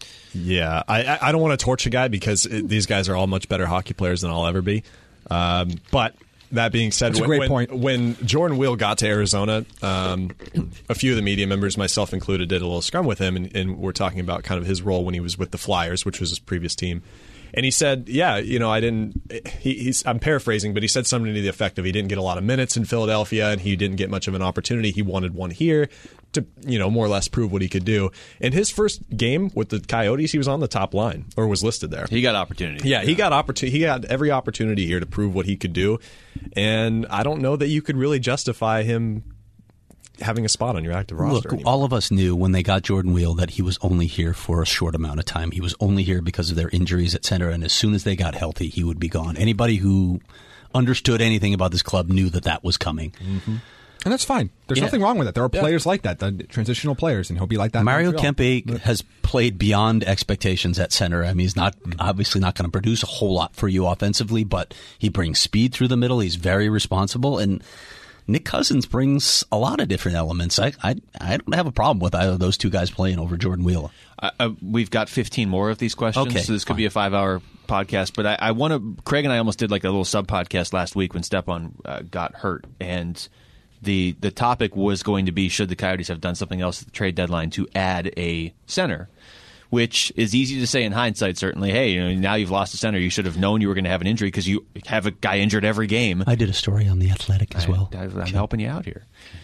Yeah, I, I don't want to torch a guy because it, these guys are all much better hockey players than I'll ever be. Um, but that being said, That's when, a great when, point. when Jordan Wheel got to Arizona, um, a few of the media members, myself included, did a little scrum with him, and, and we're talking about kind of his role when he was with the Flyers, which was his previous team. And he said, yeah, you know, I didn't, he, he's, I'm paraphrasing, but he said something to the effect of he didn't get a lot of minutes in Philadelphia and he didn't get much of an opportunity. He wanted one here to, you know, more or less prove what he could do. In his first game with the Coyotes, he was on the top line or was listed there. He got opportunity. Yeah, he got opportunity. He got every opportunity here to prove what he could do. And I don't know that you could really justify him having a spot on your active roster. Look, all of us knew when they got Jordan Wheel that he was only here for a short amount of time. He was only here because of their injuries, et cetera. And as soon as they got healthy, he would be gone. Anybody who understood anything about this club knew that that was coming. Mm-hmm. And that's fine. There's yeah. nothing wrong with it. There are yeah. players like that, the transitional players, and he'll be like that. Mario Kempe but. has played beyond expectations at center. I mean, he's not mm-hmm. obviously not going to produce a whole lot for you offensively, but he brings speed through the middle. He's very responsible, and Nick Cousins brings a lot of different elements. I I, I don't have a problem with either of those two guys playing over Jordan Wheel. Uh, uh, we've got fifteen more of these questions, okay, so this could fine. be a five-hour podcast. But I, I want to. Craig and I almost did like a little sub-podcast last week when Stepan uh, got hurt, and the the topic was going to be should the Coyotes have done something else at the trade deadline to add a center, which is easy to say in hindsight, certainly. Hey, you know, now you've lost a center. You should have known you were going to have an injury because you have a guy injured every game. I did a story on The Athletic as I, well. I, I'm helping you out here.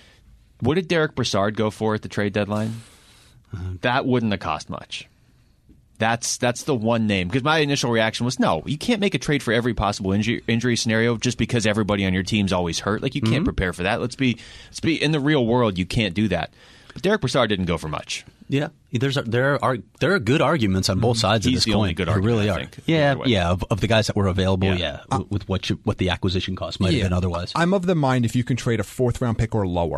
What did Derek Brassard go for at the trade deadline? Uh, that wouldn't have cost much. That's that's the one name. Because my initial reaction was, no, you can't make a trade for every possible injury, injury scenario just because everybody on your team's always hurt. Like, you can't mm-hmm. prepare for that. Let's be, let's be in the real world, you can't do that. But Derek Brassard didn't go for much. Yeah, there's a, there are there are good arguments on both sides He's of this the coin. only good there argument, really I are. think, yeah, yeah. Of, of the guys that were available, yeah, Yeah. uh, with what you, what the acquisition cost might yeah. have been otherwise. I'm of the mind if you can trade a fourth round pick or lower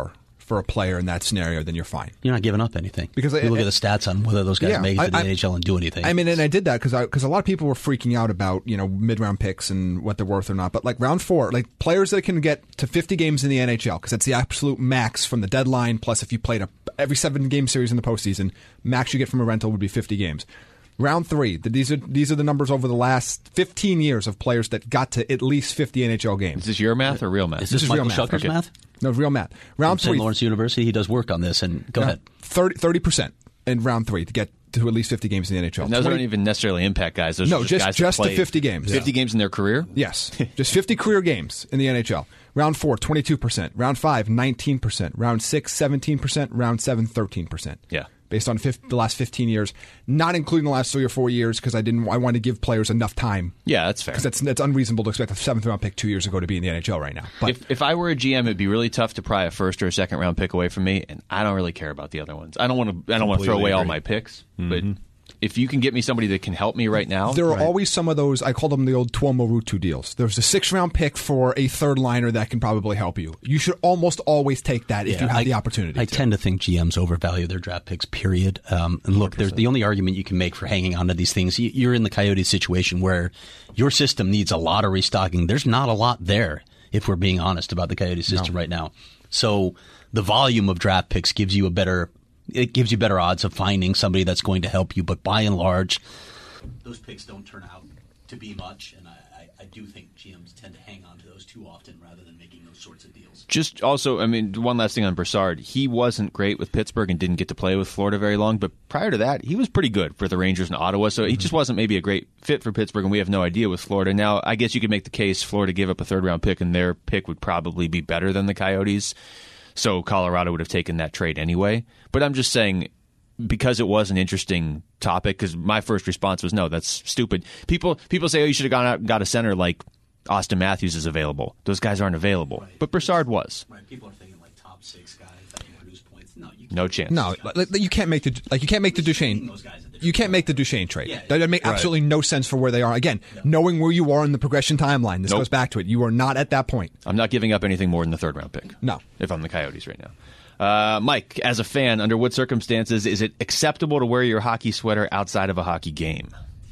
for a player in that scenario, then you're fine. You're not giving up anything. Because you I, look I, at the stats on whether those guys yeah, made it to the I, N H L and do anything. I mean, and I did that because because a lot of people were freaking out about, you know, mid-round picks and what they're worth or not. But like round four, like players that can get to fifty games in the N H L, because that's the absolute max from the deadline, plus if you played a, every seven-game series in the postseason, max you get from a rental would be fifty games. Round three, the, these are these are the numbers over the last fifteen years of players that got to at least fifty N H L games. Is this your math or real math? Is this, is Michael real math. Shucker's Okay. math? No, real math. Round From Saint three, Lawrence University, he does work on this. And go no, ahead. thirty percent in round three to get to at least fifty games in the N H L. And those twenty don't even necessarily impact guys. Those No, are just just- guys just that the played fifty games. fifty games in their career? Yes, just fifty career games in the N H L. Round four, twenty-two percent. Round five, nineteen percent. Round six, seventeen percent. Round seven, thirteen percent. Yeah. Based on fifth, the last fifteen years, not including the last three or four years, because I didn't. I wanted to give players enough time. Yeah, that's fair. Because that's that's unreasonable to expect a seventh round pick two years ago to be in the N H L right now. But If if I were a G M, it'd be really tough to pry a first or a second round pick away from me, and I don't really care about the other ones. I don't want to. I don't want to throw Completely away all agree. my picks, but if you can get me somebody that can help me right now, there are always some of those. I call them the old Tuomo Ruutu deals. There's a six round pick for a third liner that can probably help you. You should almost always take that if Yeah, you have I, the opportunity. I to. tend to think G Ms overvalue their draft picks, period. Um, and look, there's the only argument you can make for hanging on to these things. You- You're in the Coyotes situation where your system needs a lot of restocking. There's not a lot there, if we're being honest about the Coyotes system right now. So the volume of draft picks gives you a better it gives you better odds of finding somebody that's going to help you. But by and large, those picks don't turn out to be much, and I, I, I do think G Ms tend to hang on to those too often rather than making those sorts of deals. just also, I mean, one last thing on Brassard. He wasn't great with Pittsburgh and didn't get to play with Florida very long, but prior to that, he was pretty good for the Rangers and Ottawa, so he just wasn't maybe a great fit for Pittsburgh, and we have no idea with Florida. Now, I guess you could make the case Florida gave up a third-round pick, and their pick would probably be better than the Coyotes, so Colorado would have taken that trade anyway. But I'm just saying, because it was an interesting topic, because my first response was, no, that's stupid. People people say, oh, you should have gone out and got a center like Austin Matthews is available. Those guys aren't available. Right. But Brassard was. Right, people are thinking like top six guys that can produce points. No, you can't. No chance. No, like, you can't make the like you can't make the Duchesne. Those guys at the You can't make the Duchesne trade. Yeah. That would make absolutely no sense for where they are. Again, knowing where you are in the progression timeline, this Nope. goes back to it. You are not at that point. I'm not giving up anything more than the third-round pick. No. If I'm the Coyotes right now. Uh, Mike, as a fan, under what circumstances is it acceptable to wear your hockey sweater outside of a hockey game?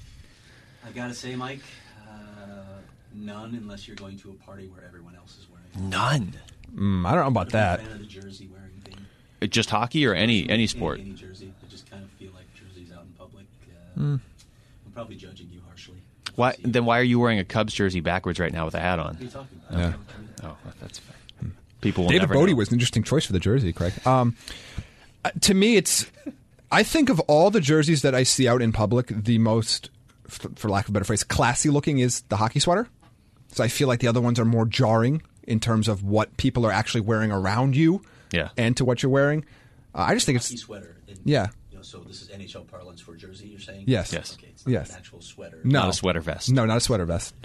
I've got to say, Mike, uh, none unless you're going to a party where everyone else is wearing. None. Mm, I don't know about I'm a that. fan of the jersey wearing thing. Uh, Just hockey or any any sport? Any, any jersey. I just kind of feel like jerseys out in public. Uh, Hmm. I'm probably judging you harshly. Why? Then why are you wearing a Cubs jersey backwards right now with a hat on? What are you talking about? Yeah. Oh, that's fair. People will David never Bodie know. was an interesting choice for the jersey, Craig. Um, uh, to me, it's. I think of all the jerseys that I see out in public, the most, f- for lack of a better phrase, classy looking is the hockey sweater. So I feel like the other ones are more jarring in terms of what people are actually wearing around you, Yeah. and to what you're wearing. Uh, I just think Hockey it's sweater. In, Yeah. You know, so this is N H L parlance for jersey, you're saying? Yes. Yes. Okay, it's not Yes. an actual sweater. no Not a sweater vest. No, not a sweater vest.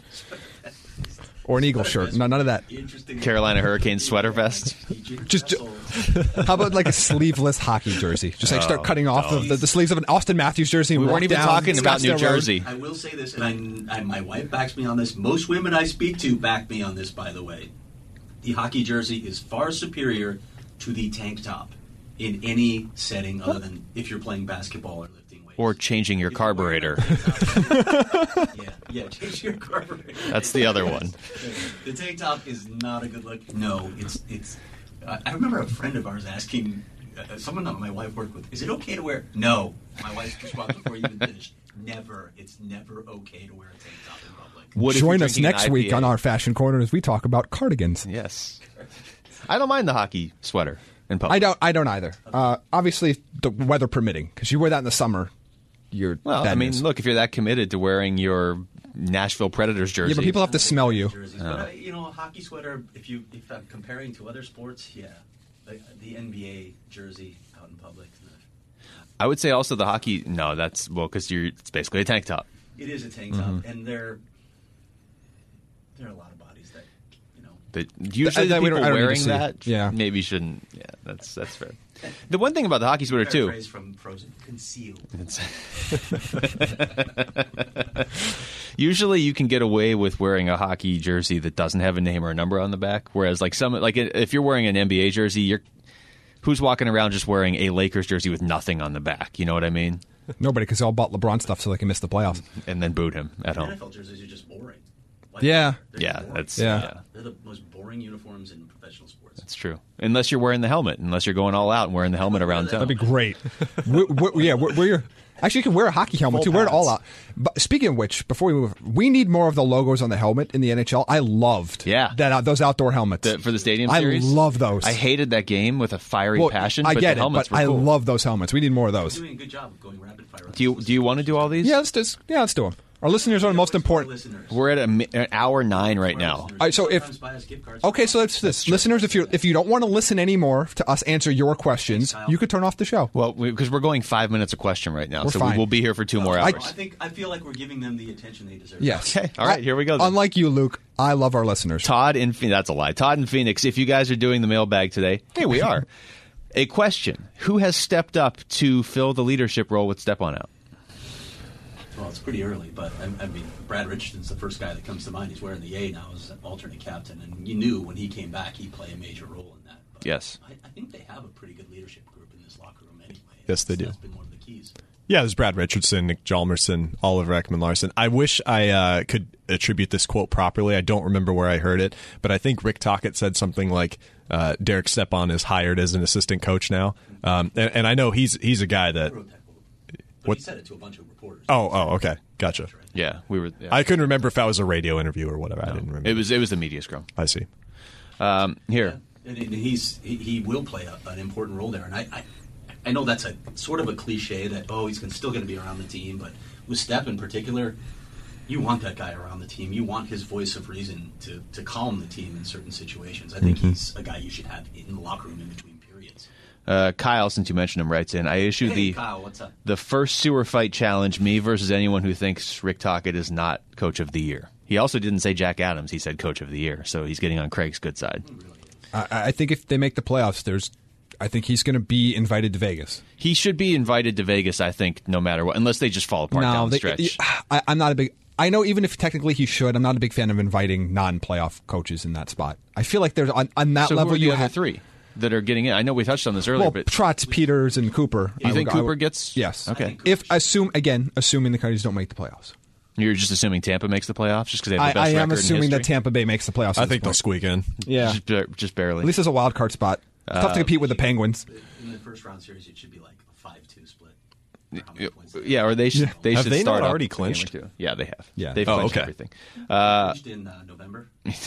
Or an eagle shirt. No, none of that. Interesting. Carolina Hurricanes sweater vest. Just- How about like a sleeveless hockey jersey? Just like start cutting off of the, the sleeves of an Austin Matthews jersey. And We walk weren't even down talking about New Scottsdale Road. Jersey. I will say this, and I, I, my wife backs me on this. Most women I speak to back me on this, by the way. The hockey jersey is far superior to the tank top in any setting other than if you're playing basketball or lifting weights. Or changing your If you're wearing carburetor. a tank top- yeah, yeah, change your carburetor. That's the other one. The tank top is not a good look. No, it's it's. Uh, I remember a friend of ours asking uh, someone that my wife worked with, "Is it okay to wear?" No, my wife's response before you even finished. Never. It's never okay to wear a tank top in public. What if you're Join us drinking an next week I P A? on our Fashion Corner as we talk about cardigans. Yes. I don't mind the hockey sweater in public. I don't. I don't either. Uh, obviously, the weather permitting, because you wear that in the summer, you're. Well, bad I mean, news. look, if you're that committed to wearing your Nashville Predators jersey. Yeah, but people have to smell you. Jerseys. But, uh, you know, a hockey sweater, if you if I'm comparing to other sports, yeah. The, the N B A jersey out in public. I would say also the hockey. No, that's well because you're. It's basically a tank top. It is a tank top, Mm-hmm. and there, there are a lot of bodies that, you know. But usually that the we don't- people I don't need to wearing see. that, Yeah. maybe shouldn't. Yeah, that's that's fair. The one thing about the hockey sweater too. Phrase from Frozen: concealed. Usually, you can get away with wearing a hockey jersey that doesn't have a name or a number on the back. Whereas, like some, like if you're wearing an N B A jersey, you're who's walking around just wearing a Lakers jersey with nothing on the back? You know what I mean? Nobody, because they all bought LeBron stuff so they can miss the playoffs. And then booed him at N home. F L jerseys are just boring. Like, Yeah. they're Yeah, boring. that's Yeah. yeah. They're the most boring uniforms in professional sports. That's true. Unless you're wearing the helmet, unless you're going all out and wearing the helmet around town. That'd be great. we, we, yeah, we're, we're actually you can wear a hockey helmet Full too. Wear it all pads. out. But speaking of which, before we move, we need more of the logos on the helmet in the N H L. I loved Yeah. that uh, those outdoor helmets The- for the stadium I series? love those. I hated that game with a fiery well, passion, I but get the it, helmets but were I cool. love those helmets. We need more of those. Doing a good job of going rapid fire. Do you do you want to do all these? Yeah, let's just yeah, let's do them. Our listeners are the most important. Listeners. We're at a, mi- an hour nine right now. All right, so if- Sometimes buy us gift cards. Okay, so that's this. Listeners, if you if you don't want to listen anymore to us answer your questions, Thanks, Kyle. you could turn off the show. Well, because we, are going five minutes a question right now, We're so fine. we will be here for two more I, hours. I think I feel like we're giving them the attention they deserve. Yes. Okay, all right, I- here we go then. Unlike you, Luke, I love our listeners. Todd in Phoenix, that's a lie. Todd in Phoenix, if you guys are doing the mailbag today, hey, we are. A question: who has stepped up to fill the leadership role with Step On Out? Well, it's pretty early, but I, I mean, Brad Richardson's the first guy that comes to mind. He's wearing the A now as an alternate captain, and you knew when he came back he'd play a major role in that. But Yes. I, I think they have a pretty good leadership group in this locker room anyway. Yes, they do. That's been one of the keys. Yeah, there's Brad Richardson, Nick Hjalmarsson, Oliver Ekman-Larsson. I wish I uh, could attribute this quote properly. I don't remember where I heard it, but I think Rick Tocchet said something like, uh, Derek Stepan is hired as an assistant coach now. Um, and, and I know he's he's a guy that... I wrote that quote. But What- he said it to a bunch of reporters. Oh, oh, okay. Gotcha. Yeah, we were. Yeah. I couldn't remember if that was a radio interview or whatever. I didn't remember. It was it was the media scrum. I see. Um, here, And, and he's he, he will play a, an important role there. And I, I I know that's a sort of a cliche that oh he's gonna, still going to be around the team, but with Step in particular, you want that guy around the team. You want his voice of reason to, to calm the team in certain situations. I think Mm-hmm. he's a guy you should have in the locker room in between periods. uh, Kyle, since you mentioned him, writes in. I issued Hey, the Kyle, what's up? the first sewer fight challenge, me versus anyone who thinks Rick Tocchet is not coach of the year. He also didn't say Jack Adams. He said coach of the year, so he's getting on Craig's good side. I, I think if they make the playoffs, there's. I think he's going to be invited to Vegas. He should be invited to Vegas, I think, no matter what, unless they just fall apart down the they- stretch. I, I'm not a big. I know even if technically he should, I'm not a big fan of inviting non-playoff coaches in that spot. I feel like there's on, on that so level who are the you other have three that are getting in? I know we touched on this earlier, well, but Trotz, Peters, and Cooper. you I think would- I Cooper would- gets? Yes. Okay. If assume again, assuming the Coyotes don't make the playoffs, You're just assuming Tampa makes the playoffs just because they have I, the best I am record in assuming that history? Tampa Bay makes the playoffs. I at this think they'll point. squeak in. Yeah, Just, bar- just barely. at least there's a wild card spot. It's tough to compete with the Penguins. In the first round series, it should be like a five two split. How many Yeah, points they yeah, or they should. They Have should they not start up already a game or clinched? two. Yeah, they have. Yeah. they've Oh, clinched okay. everything. Uh, finished in uh, November.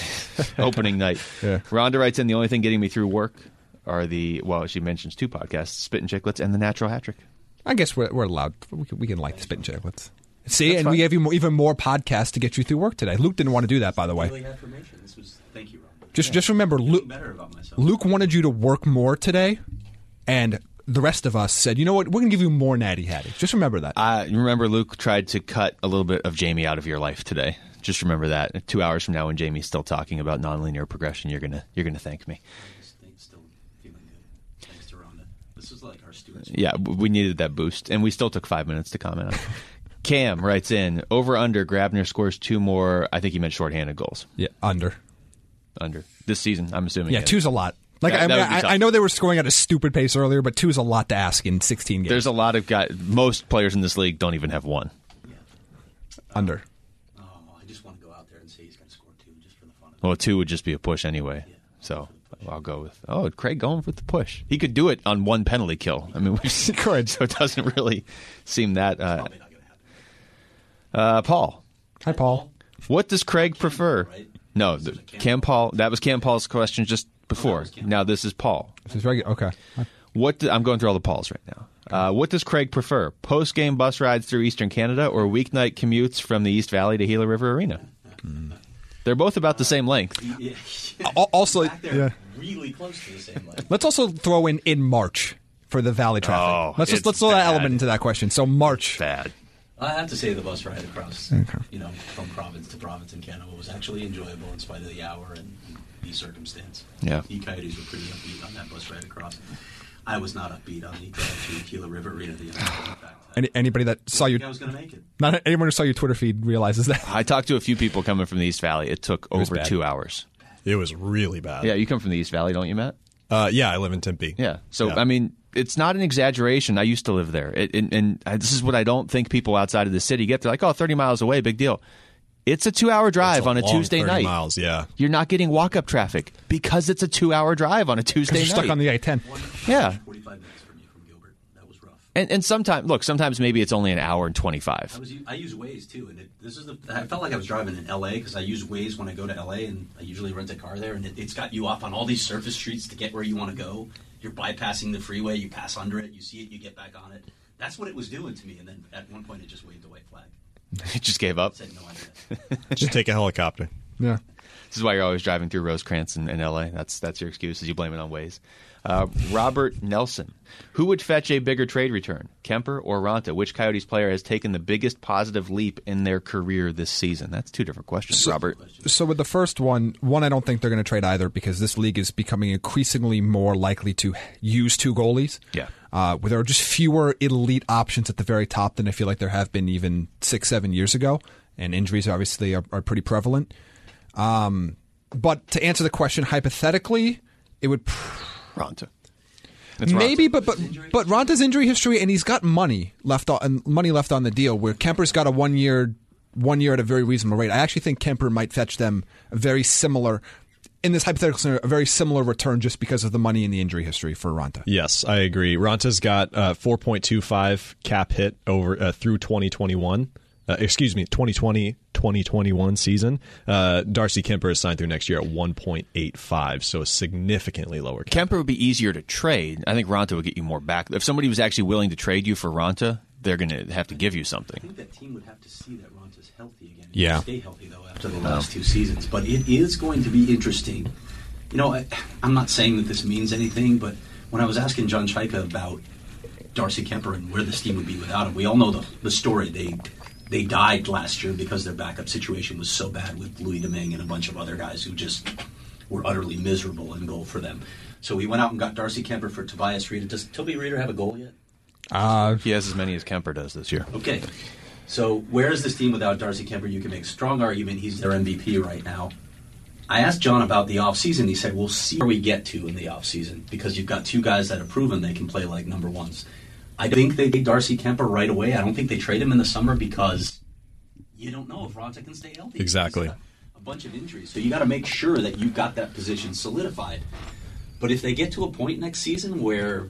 opening night. Yeah. Rhonda writes in, the only thing getting me through work are the well, she mentions two podcasts, Spit and Chicklets and the Natural Hat Trick. I guess we're, we're allowed. We can, we can like the spit and chicklets. See, That's and fine. we gave you more, even more podcasts to get you through work today. Luke didn't want to do that, by the way. Really affirmation. This was thank you, Ron. Just just remember, Feeling Luke. better about myself. Luke wanted you to work more today, and the rest of us said, you know what, we're going to give you more Natty Hattie. Just remember that. Uh, remember, Luke tried to cut a little bit of Jamie out of your life today. Just remember that. Two hours from now, when Jamie's still talking about nonlinear progression, you're gonna you're gonna thank me. I just think still feeling good. Thanks to Rhonda. This was like our students. Yeah, w- we needed that boost, and we still took five minutes to comment on it. Cam writes in, over under, Grabner scores two more, I think he meant shorthanded goals. yeah, under. Under. This season, I'm assuming. Yeah, Ken. two's a lot. Like That- I, that mean, would be I, tough. I know they were scoring at a stupid pace earlier, but two's a lot to ask in sixteen games. There's a lot of guys, most players in this league don't even have one. Yeah. under. Oh, I just want to go out there and say he's going to score two just for the fun of it. Well, two would just be a push anyway. So I'll go with, oh, Craig going with the push. He could do it on one penalty kill. I mean, we've seen it, so it doesn't really seem that. Uh, Probably not going to happen. uh, Paul, Hi, Paul. what does Craig prefer? right? No, This the, is a Cam Cam Paul. That was Cam Paul's question just before. was Cam. Now this is Paul. This is regular. Okay. What do, I'm going through all the Pauls right now. Uh, what does Craig prefer? Post game bus rides through Eastern Canada or weeknight commutes from the East Valley to Gila River Arena? They're both about the same length. Yeah. Al- Also, Back there, yeah. really close to the same level. Let's also throw in in March for the Valley traffic. Oh, let's just it's let's throw that bad. element into that question. So March. Bad. I have to say the bus ride across, you know, from province to province in Canada was actually enjoyable in spite of the hour and the circumstance. Yeah. The Coyotes were pretty upbeat on that bus ride across. I was not upbeat on the drive to Gila River Arena. The in fact, I Any, anybody that saw think your I was going to make it. not anyone who saw your Twitter feed realizes that. I talked to a few people coming from the East Valley. It took was over bad. two hours. It was really bad. Yeah, you come from the East Valley, don't you, Matt? Uh, yeah, I live in Tempe. Yeah. So, Yeah. I mean, it's not an exaggeration. I used to live there. It, and, and this is what I don't think people outside of the city get. They're like, oh, thirty miles away, big deal. It's a two-hour drive It's a on a long Tuesday thirty night. miles, yeah. You're not getting walk-up traffic because it's a two-hour drive on a Tuesday Because night. you're stuck on the I ten. Yeah. forty-five minutes for me from Gilbert. That was rough. And, and sometimes, look, sometimes maybe it's only an hour and twenty-five. I was I use Waze too, and it, this is the I felt like I was driving in L A because I use Waze when I go to L A, and I usually rent a car there, and it, it's got you off on all these surface streets to get where you want to go. You're bypassing the freeway, you pass under it, you see it, you get back on it. That's what it was doing to me, and then at one point it just waved a white flag. It just gave up. It said no idea. Just take a helicopter. Yeah. This is why you're always driving through Rosecrans in, in L A. That's that's your excuse, is you blame it on Waze. Uh, Robert Nelson. Who would fetch a bigger trade return, Kemper or Ronta? Which Coyotes player has taken the biggest positive leap in their career this season? That's two different questions, Robert. So with the first one, one, I don't think they're going to trade either because this league is becoming increasingly more likely to use two goalies. Yeah. Uh, where there are just fewer elite options at the very top than I feel like there have been even six, seven years ago. And injuries obviously are, are pretty prevalent. Um, but to answer the question hypothetically, it would... Pr- Ronta. It's Maybe, Ronta. but but but Ronta's injury history, and he's got money left on money left on the deal. Where Kemper's got a one year, one year at a very reasonable rate. I actually think Kemper might fetch them a very similar, in this hypothetical scenario, a very similar return just because of the money and the injury history for Ronta. Yes, I agree. Ronta's got uh, four point two five cap hit over uh, through twenty twenty-one. Uh, excuse me, twenty twenty, twenty twenty-one season. Uh, Darcy Kemper is signed through next year at one point eight five, so a significantly lower cap. Kemper would be easier to trade. I think Ronta would get you more back. If somebody was actually willing to trade you for Ronta, they're going to have to give you I something. think that team would have to see that Ronta's healthy again. Yeah. Stay healthy though after the last two seasons, but it is going to be interesting. You know, I, I'm not saying that this means anything, but when I was asking John Chaika about Darcy Kemper and where this team would be without him, we all know the the story. They they died last year because their backup situation was so bad with Louis Domingue and a bunch of other guys who just were utterly miserable in goal for them. So we went out and got Darcy Kemper for Tobias Reeder. Does Toby Reeder have a goal yet? Uh, He has as many as Kemper does this year. Okay. So where is this team without Darcy Kemper? You can make a strong argument he's their M V P right now. I asked John about the offseason. He said, we'll see where we get to in the offseason because you've got two guys that have proven they can play like number ones. I think they take Darcy Kemper right away. I don't think they trade him in the summer because you don't know if Ronta can stay healthy. Exactly. He's got a bunch of injuries. So you got to make sure that you've got that position solidified. But if they get to a point next season where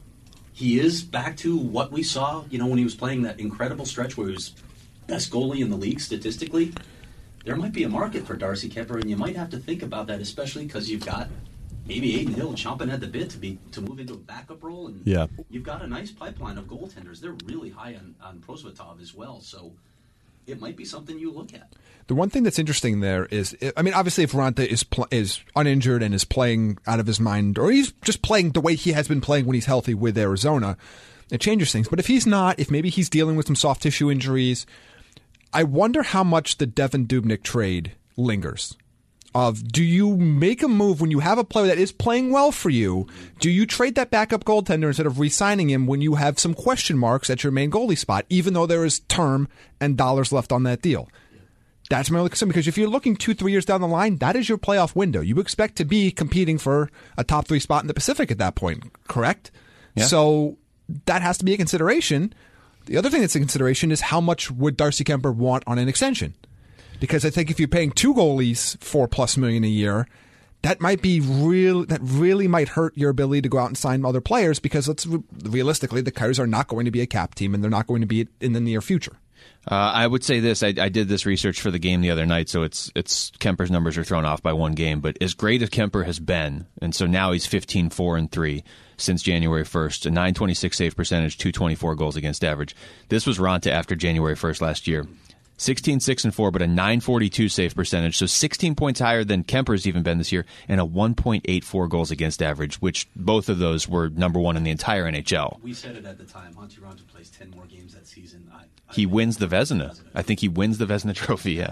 he is back to what we saw, you know, when he was playing that incredible stretch where he was best goalie in the league statistically, there might be a market for Darcy Kemper, and you might have to think about that, especially because you've got maybe Aiden Hill chomping at the bit to be to move into a backup role, and Yeah. you've got a nice pipeline of goaltenders. They're really high on, on Prosvetov as well, so it might be something you look at. The one thing that's interesting there is, I mean, obviously, if Ronta is pl- is uninjured and is playing out of his mind, or he's just playing the way he has been playing when he's healthy with Arizona, it changes things. But if he's not, if maybe he's dealing with some soft tissue injuries, I wonder how much the Devin Dubnyk trade lingers. Of do you make a move when you have a player that is playing well for you? Do you trade that backup goaltender instead of re-signing him when you have some question marks at your main goalie spot, even though there is term and dollars left on that deal? That's my only concern, because if you're looking two, three years down the line, that is your playoff window. You expect to be competing for a top three spot in the Pacific at that point, correct? Yeah. So that has to be a consideration. The other thing that's a consideration is how much would Darcy Kemper want on an extension? Because I think if you're paying two goalies four plus million a year, that might be real. That really might hurt your ability to go out and sign other players. Because let's realistically, the Coyotes are not going to be a cap team, and they're not going to be in the near future. Uh, I would say this. I, I did this research for the game the other night, so it's it's Kemper's numbers are thrown off by one game. But as great as Kemper has been, and so now he's fifteen four and three since January first, a nine twenty-six save percentage, two twenty-four goals against average. This was Ronta after January first last year. sixteen six and four, but a nine forty-two save percentage, so sixteen points higher than Kemper's even been this year, and a one point eight four goals against average, which both of those were number one in the entire N H L. We said it at the time. Monty Ronta plays ten more games that season. I, I He wins the Vezina. I think he wins the Vezina Trophy, yeah.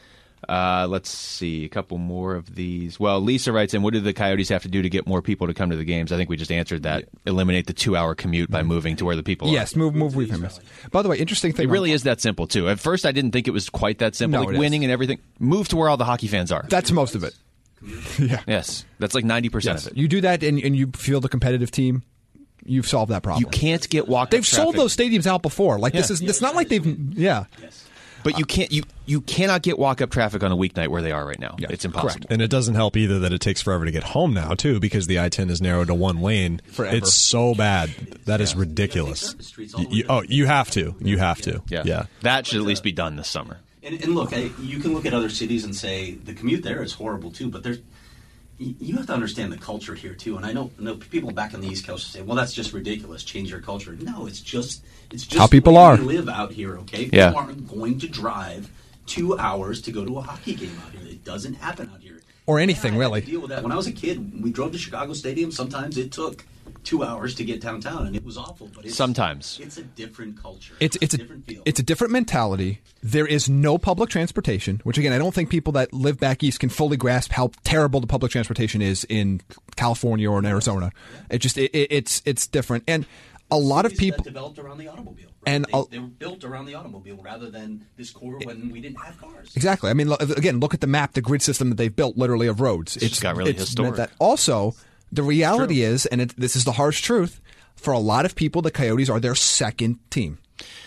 Uh, let's see, a couple more of these. Well, Lisa writes in, what do the Coyotes have to do to get more people to come to the games? I think we just answered that. Eliminate the two-hour commute by moving to where the people Yes, are. move move with him. By the way, interesting thing. It really is that simple, too. At first, I didn't think it was quite that simple. No, like it is. winning and everything. Move to where all the hockey fans are. That's most of it. commute. Yeah. Yes, that's like ninety percent Yes. of it. You do that and, and you field a competitive team, you've solved that problem. You can't get walk. They've sold those stadiums out before. Like this Yeah. is it's not like they've yeah. Yes. But you can't you you cannot get walk up traffic on a weeknight where they are right now. Yeah, It's impossible. correct. And it doesn't help either that it takes forever to get home now, too, because the I ten is narrowed to one lane. Forever. It's so bad. That is ridiculous. You- you- oh, you have to. You have to. Yeah. Yeah. That should at least be done this summer. And, and look, I, you can look at other cities and say the commute there is horrible too, but there's y- you have to understand the culture here too. And I know, know people back on the East Coast say, "Well, that's just ridiculous. Change your culture." No, it's just it's just How people the way are. we live out here. Okay, Yeah. people aren't going to drive two hours to go to a hockey game out here. It doesn't happen out here. Or anything, Yeah, I had really. to deal with that when I was a kid. We drove to Chicago Stadium. Sometimes it took two hours to get downtown, and it was awful. But it's, Sometimes. it's a different culture. It's it's a different feel. it's a different mentality. There is no public transportation, which again I don't think people that live back east can fully grasp how terrible the public transportation is in California or in Arizona. It just it, it, it's it's different, and a lot of Cities that people. developed around the automobile, right? And they, a- they were built around the automobile rather than this core when we didn't have cars. Exactly. I mean, lo- again, look at the map, the grid system that they've built, literally of roads. just got really meant historic. That. Also, the reality is, and it, this is the harsh truth, for a lot of people, the Coyotes are their second team.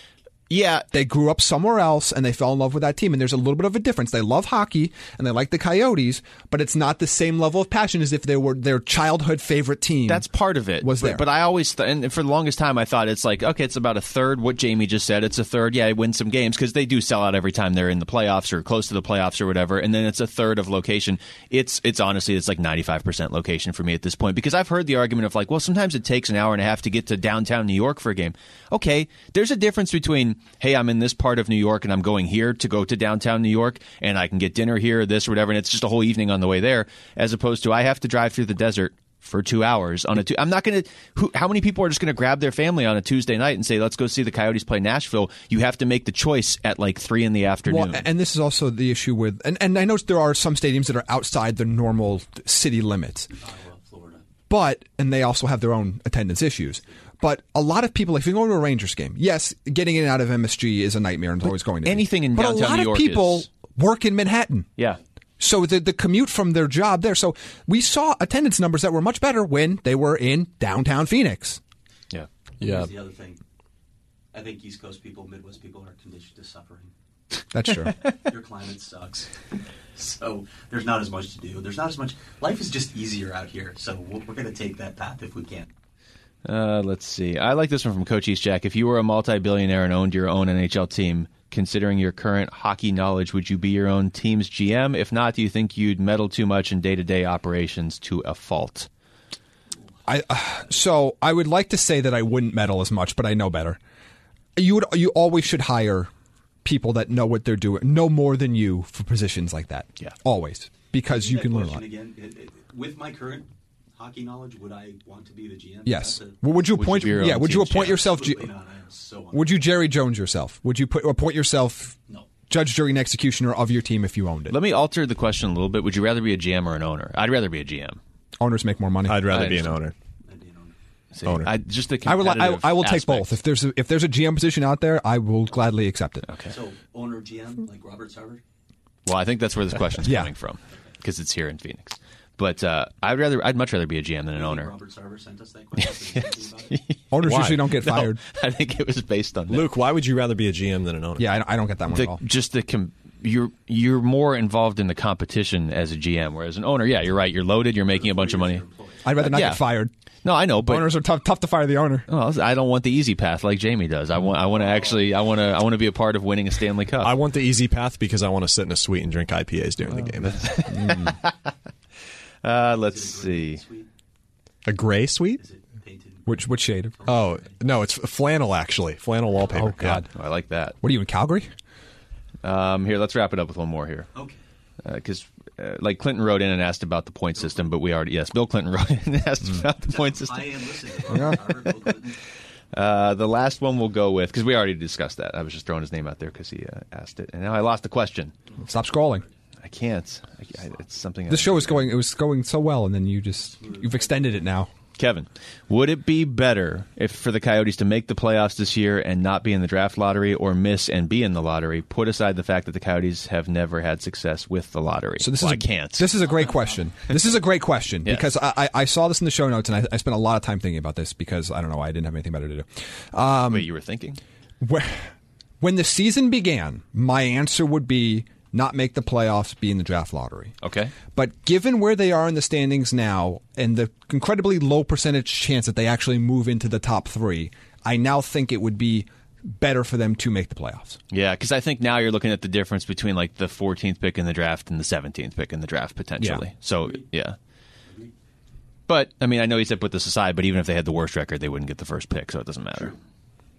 Yeah, They grew up somewhere else and they fell in love with that team. And there's a little bit of a difference. They love hockey and they like the Coyotes, but it's not the same level of passion as if they were their childhood favorite team. that's part of it. Was but, there. But I always, th- and for the longest time, I thought it's like, okay, it's about a third what Jamie just said. It's a third, yeah, they win some games because they do sell out every time they're in the playoffs or close to the playoffs or whatever. And then it's a third of location. It's it's honestly, it's like ninety-five percent location for me at this point because I've heard the argument of like, well, sometimes it takes an hour and a half to get to downtown New York for a game. Okay, there's a difference between, hey, I'm in this part of New York and I'm going here to go to downtown New York and I can get dinner here, this or whatever, and it's just a whole evening on the way there, as opposed to I have to drive through the desert for two hours on a two. I'm not going to. How many people are just going to grab their family on a Tuesday night and say, "Let's go see the Coyotes play Nashville"? You have to make the choice at like three in the afternoon. Well, and this is also the issue with, and, and I know there are some stadiums that are outside the normal city limits, Ottawa, Florida. but, and they also have their own attendance issues. But a lot of people, if you go to a Rangers game, yes, getting in and out of M S G is a nightmare and it's always going to be. anything in but downtown a lot New of York people is- work in Manhattan. yeah. So the the commute from their job there. So we saw attendance numbers that were much better when they were in downtown Phoenix. Yeah. Yeah. Here's the other thing. I think East Coast people, Midwest people are conditioned to suffering. That's true. Your climate sucks. So there's not as much to do. There's not as much. Life is just easier out here. So we're going to take that path if we can. Uh, let's see. I like this one from Coach East Jack. If you were a multi-billionaire and owned your own N H L team, considering your current hockey knowledge, would you be your own team's G M? If not, do you think you'd meddle too much in day-to-day operations to a fault? I uh, so I would like to say that I wouldn't meddle as much, but I know better. You would you always should hire people that know what they're doing, know more than you for positions like that. Yeah. Always, because you That can learn a question lot. Again, it- it- with my current hockey knowledge, would I want to be the G M? Yes. That's a- Well, would you Would you appoint? be your yeah. own Would you team's appoint G M? yourself? G- Absolutely not. I am so would you Jerry Jones yourself? Would you put appoint yourself No. judge, jury, and executioner of your team if you owned it? Let me alter the question a little bit. Would you rather be a G M or an owner? I'd rather be a G M. Owners make more money. I'd rather I be an understand. owner. I'd be an owner. See, Owner. I, just the I will. I, competitive I will take aspect. both. If there's a, if there's a G M position out there, I will gladly accept it. Okay. So owner G M like Robert Sarver. Well, I think that's where this question's Yeah. coming from because it's here in Phoenix. But uh, I'd rather, I'd much rather be a G M than an You think owner. Robert Sarver sent us that question. Yes. About it? Owners Why? usually don't get No, fired. I think it was based on that. Luke, why would you rather be a G M than an owner? Yeah, I, I don't get that one at the, all. just the com- you're you're more involved in the competition as a G M, whereas an owner, yeah, you're right. You're loaded. You're making a bunch of money. I'd rather not Yeah. get fired. No, I know, but Owners are tough, tough to fire the owner. well, I don't want the easy path like Jamie does. I want I want to actually I want to I want to be a part of winning a Stanley Cup. I want the easy path because I want to sit in a suite and drink I P As during the game. uh, let's see. Sweet. A gray suite? Is it painted? Which which shade? Oh, no, it's flannel, actually. Flannel wallpaper. Oh, God. Oh, I like that. What are you in Calgary? Um, here, let's wrap it up with one more here. Okay. Because, uh, like, Clinton wrote in and asked about the point system, but we already, yes, Bill Clinton wrote in and asked about the point system. I am listening. Robert Sarver, Bill Clinton. Uh, the last one we'll go with, because we already discussed that. I was just throwing his name out there because he uh, asked it. And now I lost the question. Stop scrolling. I can't. I, I, it's something. This I, show is going. It was going so well, and then you just you've extended it now. Kevin, would it be better if for the Coyotes to make the playoffs this year and not be in the draft lottery, or miss and be in the lottery? Put aside the fact that the Coyotes have never had success with the lottery. So this well, is I a, can't. This is a great question. This is a great question Yes. because I, I, I saw this in the show notes and I, I spent a lot of time thinking about this because I don't know why I didn't have anything better to do. Um, Wait, you were thinking? When, when the season began, my answer would be not make the playoffs, be in the draft lottery. Okay. But given where they are in the standings now and the incredibly low percentage chance that they actually move into the top three, I now think it would be better for them to make the playoffs. Yeah, because I think now you're looking at the difference between like the fourteenth pick in the draft and the seventeenth pick in the draft potentially. Yeah. So, yeah. But, I mean, I know he said put this aside, but even if they had the worst record, they wouldn't get the first pick, so it doesn't matter. True.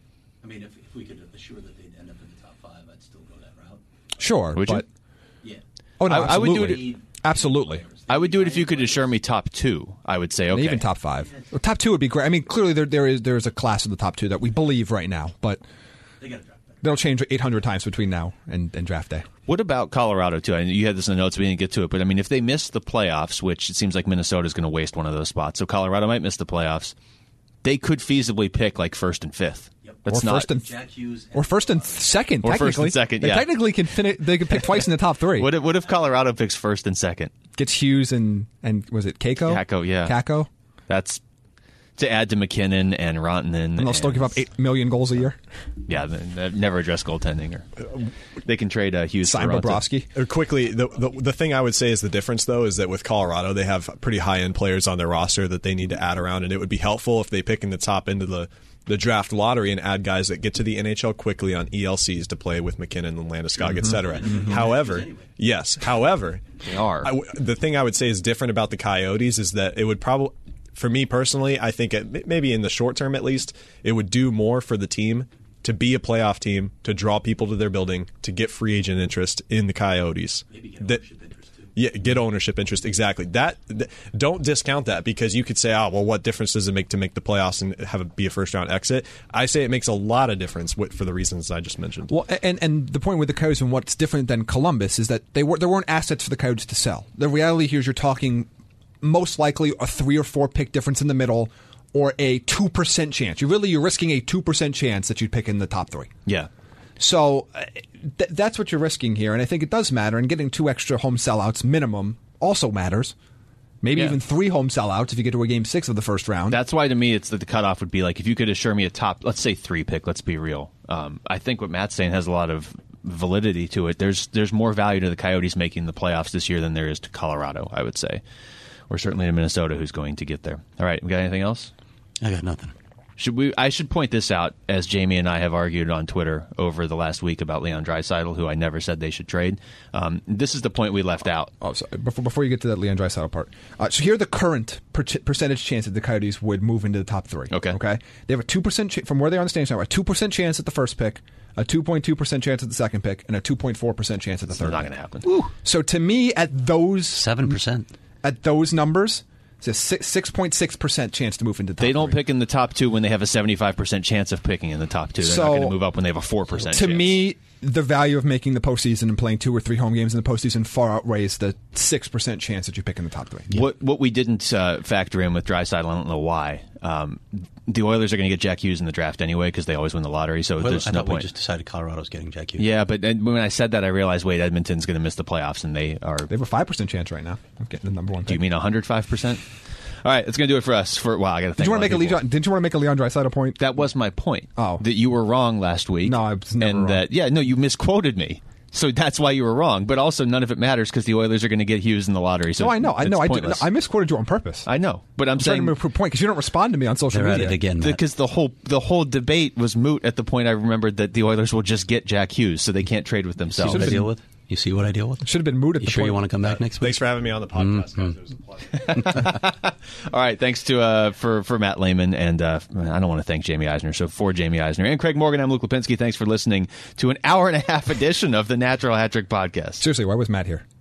I mean, if, if we could assure that they'd end up in the top five, I'd still go that route. Sure, Would you? but Yeah. oh no, I- I would do absolutely. it- Absolutely. I would do it if you could assure me top two. I would say, okay. Even top five. Well, top two would be great. I mean, clearly there there is there is a class of the top two that we believe right now, but They got to draft back. they'll change eight hundred times between now and, and draft day. What about Colorado, too? I know you had this in the notes, we didn't get to it, but I mean, if they miss the playoffs, which it seems like Minnesota's going to waste one of those spots, so Colorado might miss the playoffs, they could feasibly pick like first and fifth. Yep. That's Or not, first and Jack Hughes. And or first and second. Or first and technically. second, They yeah. technically can finish. They can pick twice in the top three. What if, what if Colorado picks first and second? Gets Hughes and and was it Kako? Kako, yeah. Kako. That's to add to McKinnon and Rantanen. And they'll still give up eight million goals a year. Yeah, they, they've never address goaltending. Or they can trade uh, Hughes Sign for Rantanen. Bobrovsky. Uh, Quickly, the, the the thing I would say is the difference, though, is that with Colorado, they have pretty high end players on their roster that they need to add around, and it would be helpful if they pick in the top end of the, the draft lottery and add guys that get to the N H L quickly on E L Cs to play with McKinnon and Landeskog, et cetera. However, yes, however, They are. I w- the thing I would say is different about the Coyotes is that it would probably, for me personally, I think it, maybe in the short term at least, it would do more for the team to be a playoff team, to draw people to their building, to get free agent interest in the Coyotes. Maybe get That- ownership interest, too. Yeah, get ownership interest, exactly. That, th- don't discount that, because you could say, oh, well, what difference does it make to make the playoffs and have it be a first round exit? I say it makes a lot of difference wi- for the reasons I just mentioned. Well, and and the point with the Coyotes and what's different than Columbus is that they were there weren't assets for the Coyotes to sell. The reality here is you're talking most likely a three or four pick difference in the middle, or a two percent chance. You really you're risking a two percent chance that you'd pick in the top three. Yeah. So uh, th- that's what you're risking here, and I think it does matter. And getting two extra home sellouts minimum also matters. Maybe Yeah. even three home sellouts if you get to a game six of the first round. That's why to me it's that the cutoff would be like if you could assure me a top, let's say three pick. Let's be real. Um, I think what Matt's saying has a lot of validity to it. There's there's more value to the Coyotes making the playoffs this year than there is to Colorado, I would say, or certainly to Minnesota, who's going to get there. All right, we got anything else? I got nothing. Should we? I should point this out, as Jamie and I have argued on Twitter over the last week about Leon Draisaitl, who I never said they should trade. Um, this is the point we left out. Oh, sorry. Before, before you get to that Leon Draisaitl part, uh, so here are the current per- percentage chance that the Coyotes would move into the top three. Okay. Okay. They have a two percent ch- from where they are on the standings now. A two percent chance at the first pick, a two point two percent chance at the second pick, and a two point four percent chance at the It's third. not pick. going to happen. So to me, at those Seven percent. at those numbers, it's a six point six percent chance to move into the top They don't three. pick in the top two when they have a seventy-five percent chance of picking in the top two. They're So, not going to move up when they have a four percent To chance. me, the value of making the postseason and playing two or three home games in the postseason far outweighs the six percent chance that you pick in the top three. What what we didn't uh, factor in with Draisaitl, I don't know why. Um, the Oilers are going to get Jack Hughes in the draft anyway because they always win the lottery. So Well, there's I no thought we point. just decided Colorado's getting Jack Hughes. Yeah, but then when I said that, I realized wait, Edmonton's going to miss the playoffs, and they are. They have a five percent chance right now of getting the number one pick. Do you mean one hundred five percent? All right, that's going to do it for us. For wow, I got to. Did you want to make a Leon, didn't you want to make a Leon Draisaitl point? That was my point. Oh. That you were wrong last week. No, I was never and wrong. That, yeah, no, you misquoted me. So that's why you were wrong. But also, none of it matters because the Oilers are going to get Hughes in the lottery. So No, I know, I it's know, I, do, pointless. I misquoted you on purpose. I know, but I'm, I'm trying saying to prove a point because you don't respond to me on social They're at media. it again, Matt. because the whole the whole debate was moot at the point I remembered that the Oilers will just get Jack Hughes, so they can't trade with See themselves. what I Should've deal with? You see what I deal with? Should have been moot at You the sure point. you want to come back next week? Thanks for having me on the podcast, guys. It was a pleasure. All right, thanks to uh, for for Matt Lehman, and uh, I don't want to thank Jamie Eisner. So for Jamie Eisner and Craig Morgan, I'm Luke Lipinski. Thanks for listening to an hour and a half edition of the Natural Hat Trick Podcast. Seriously, why was Matt here?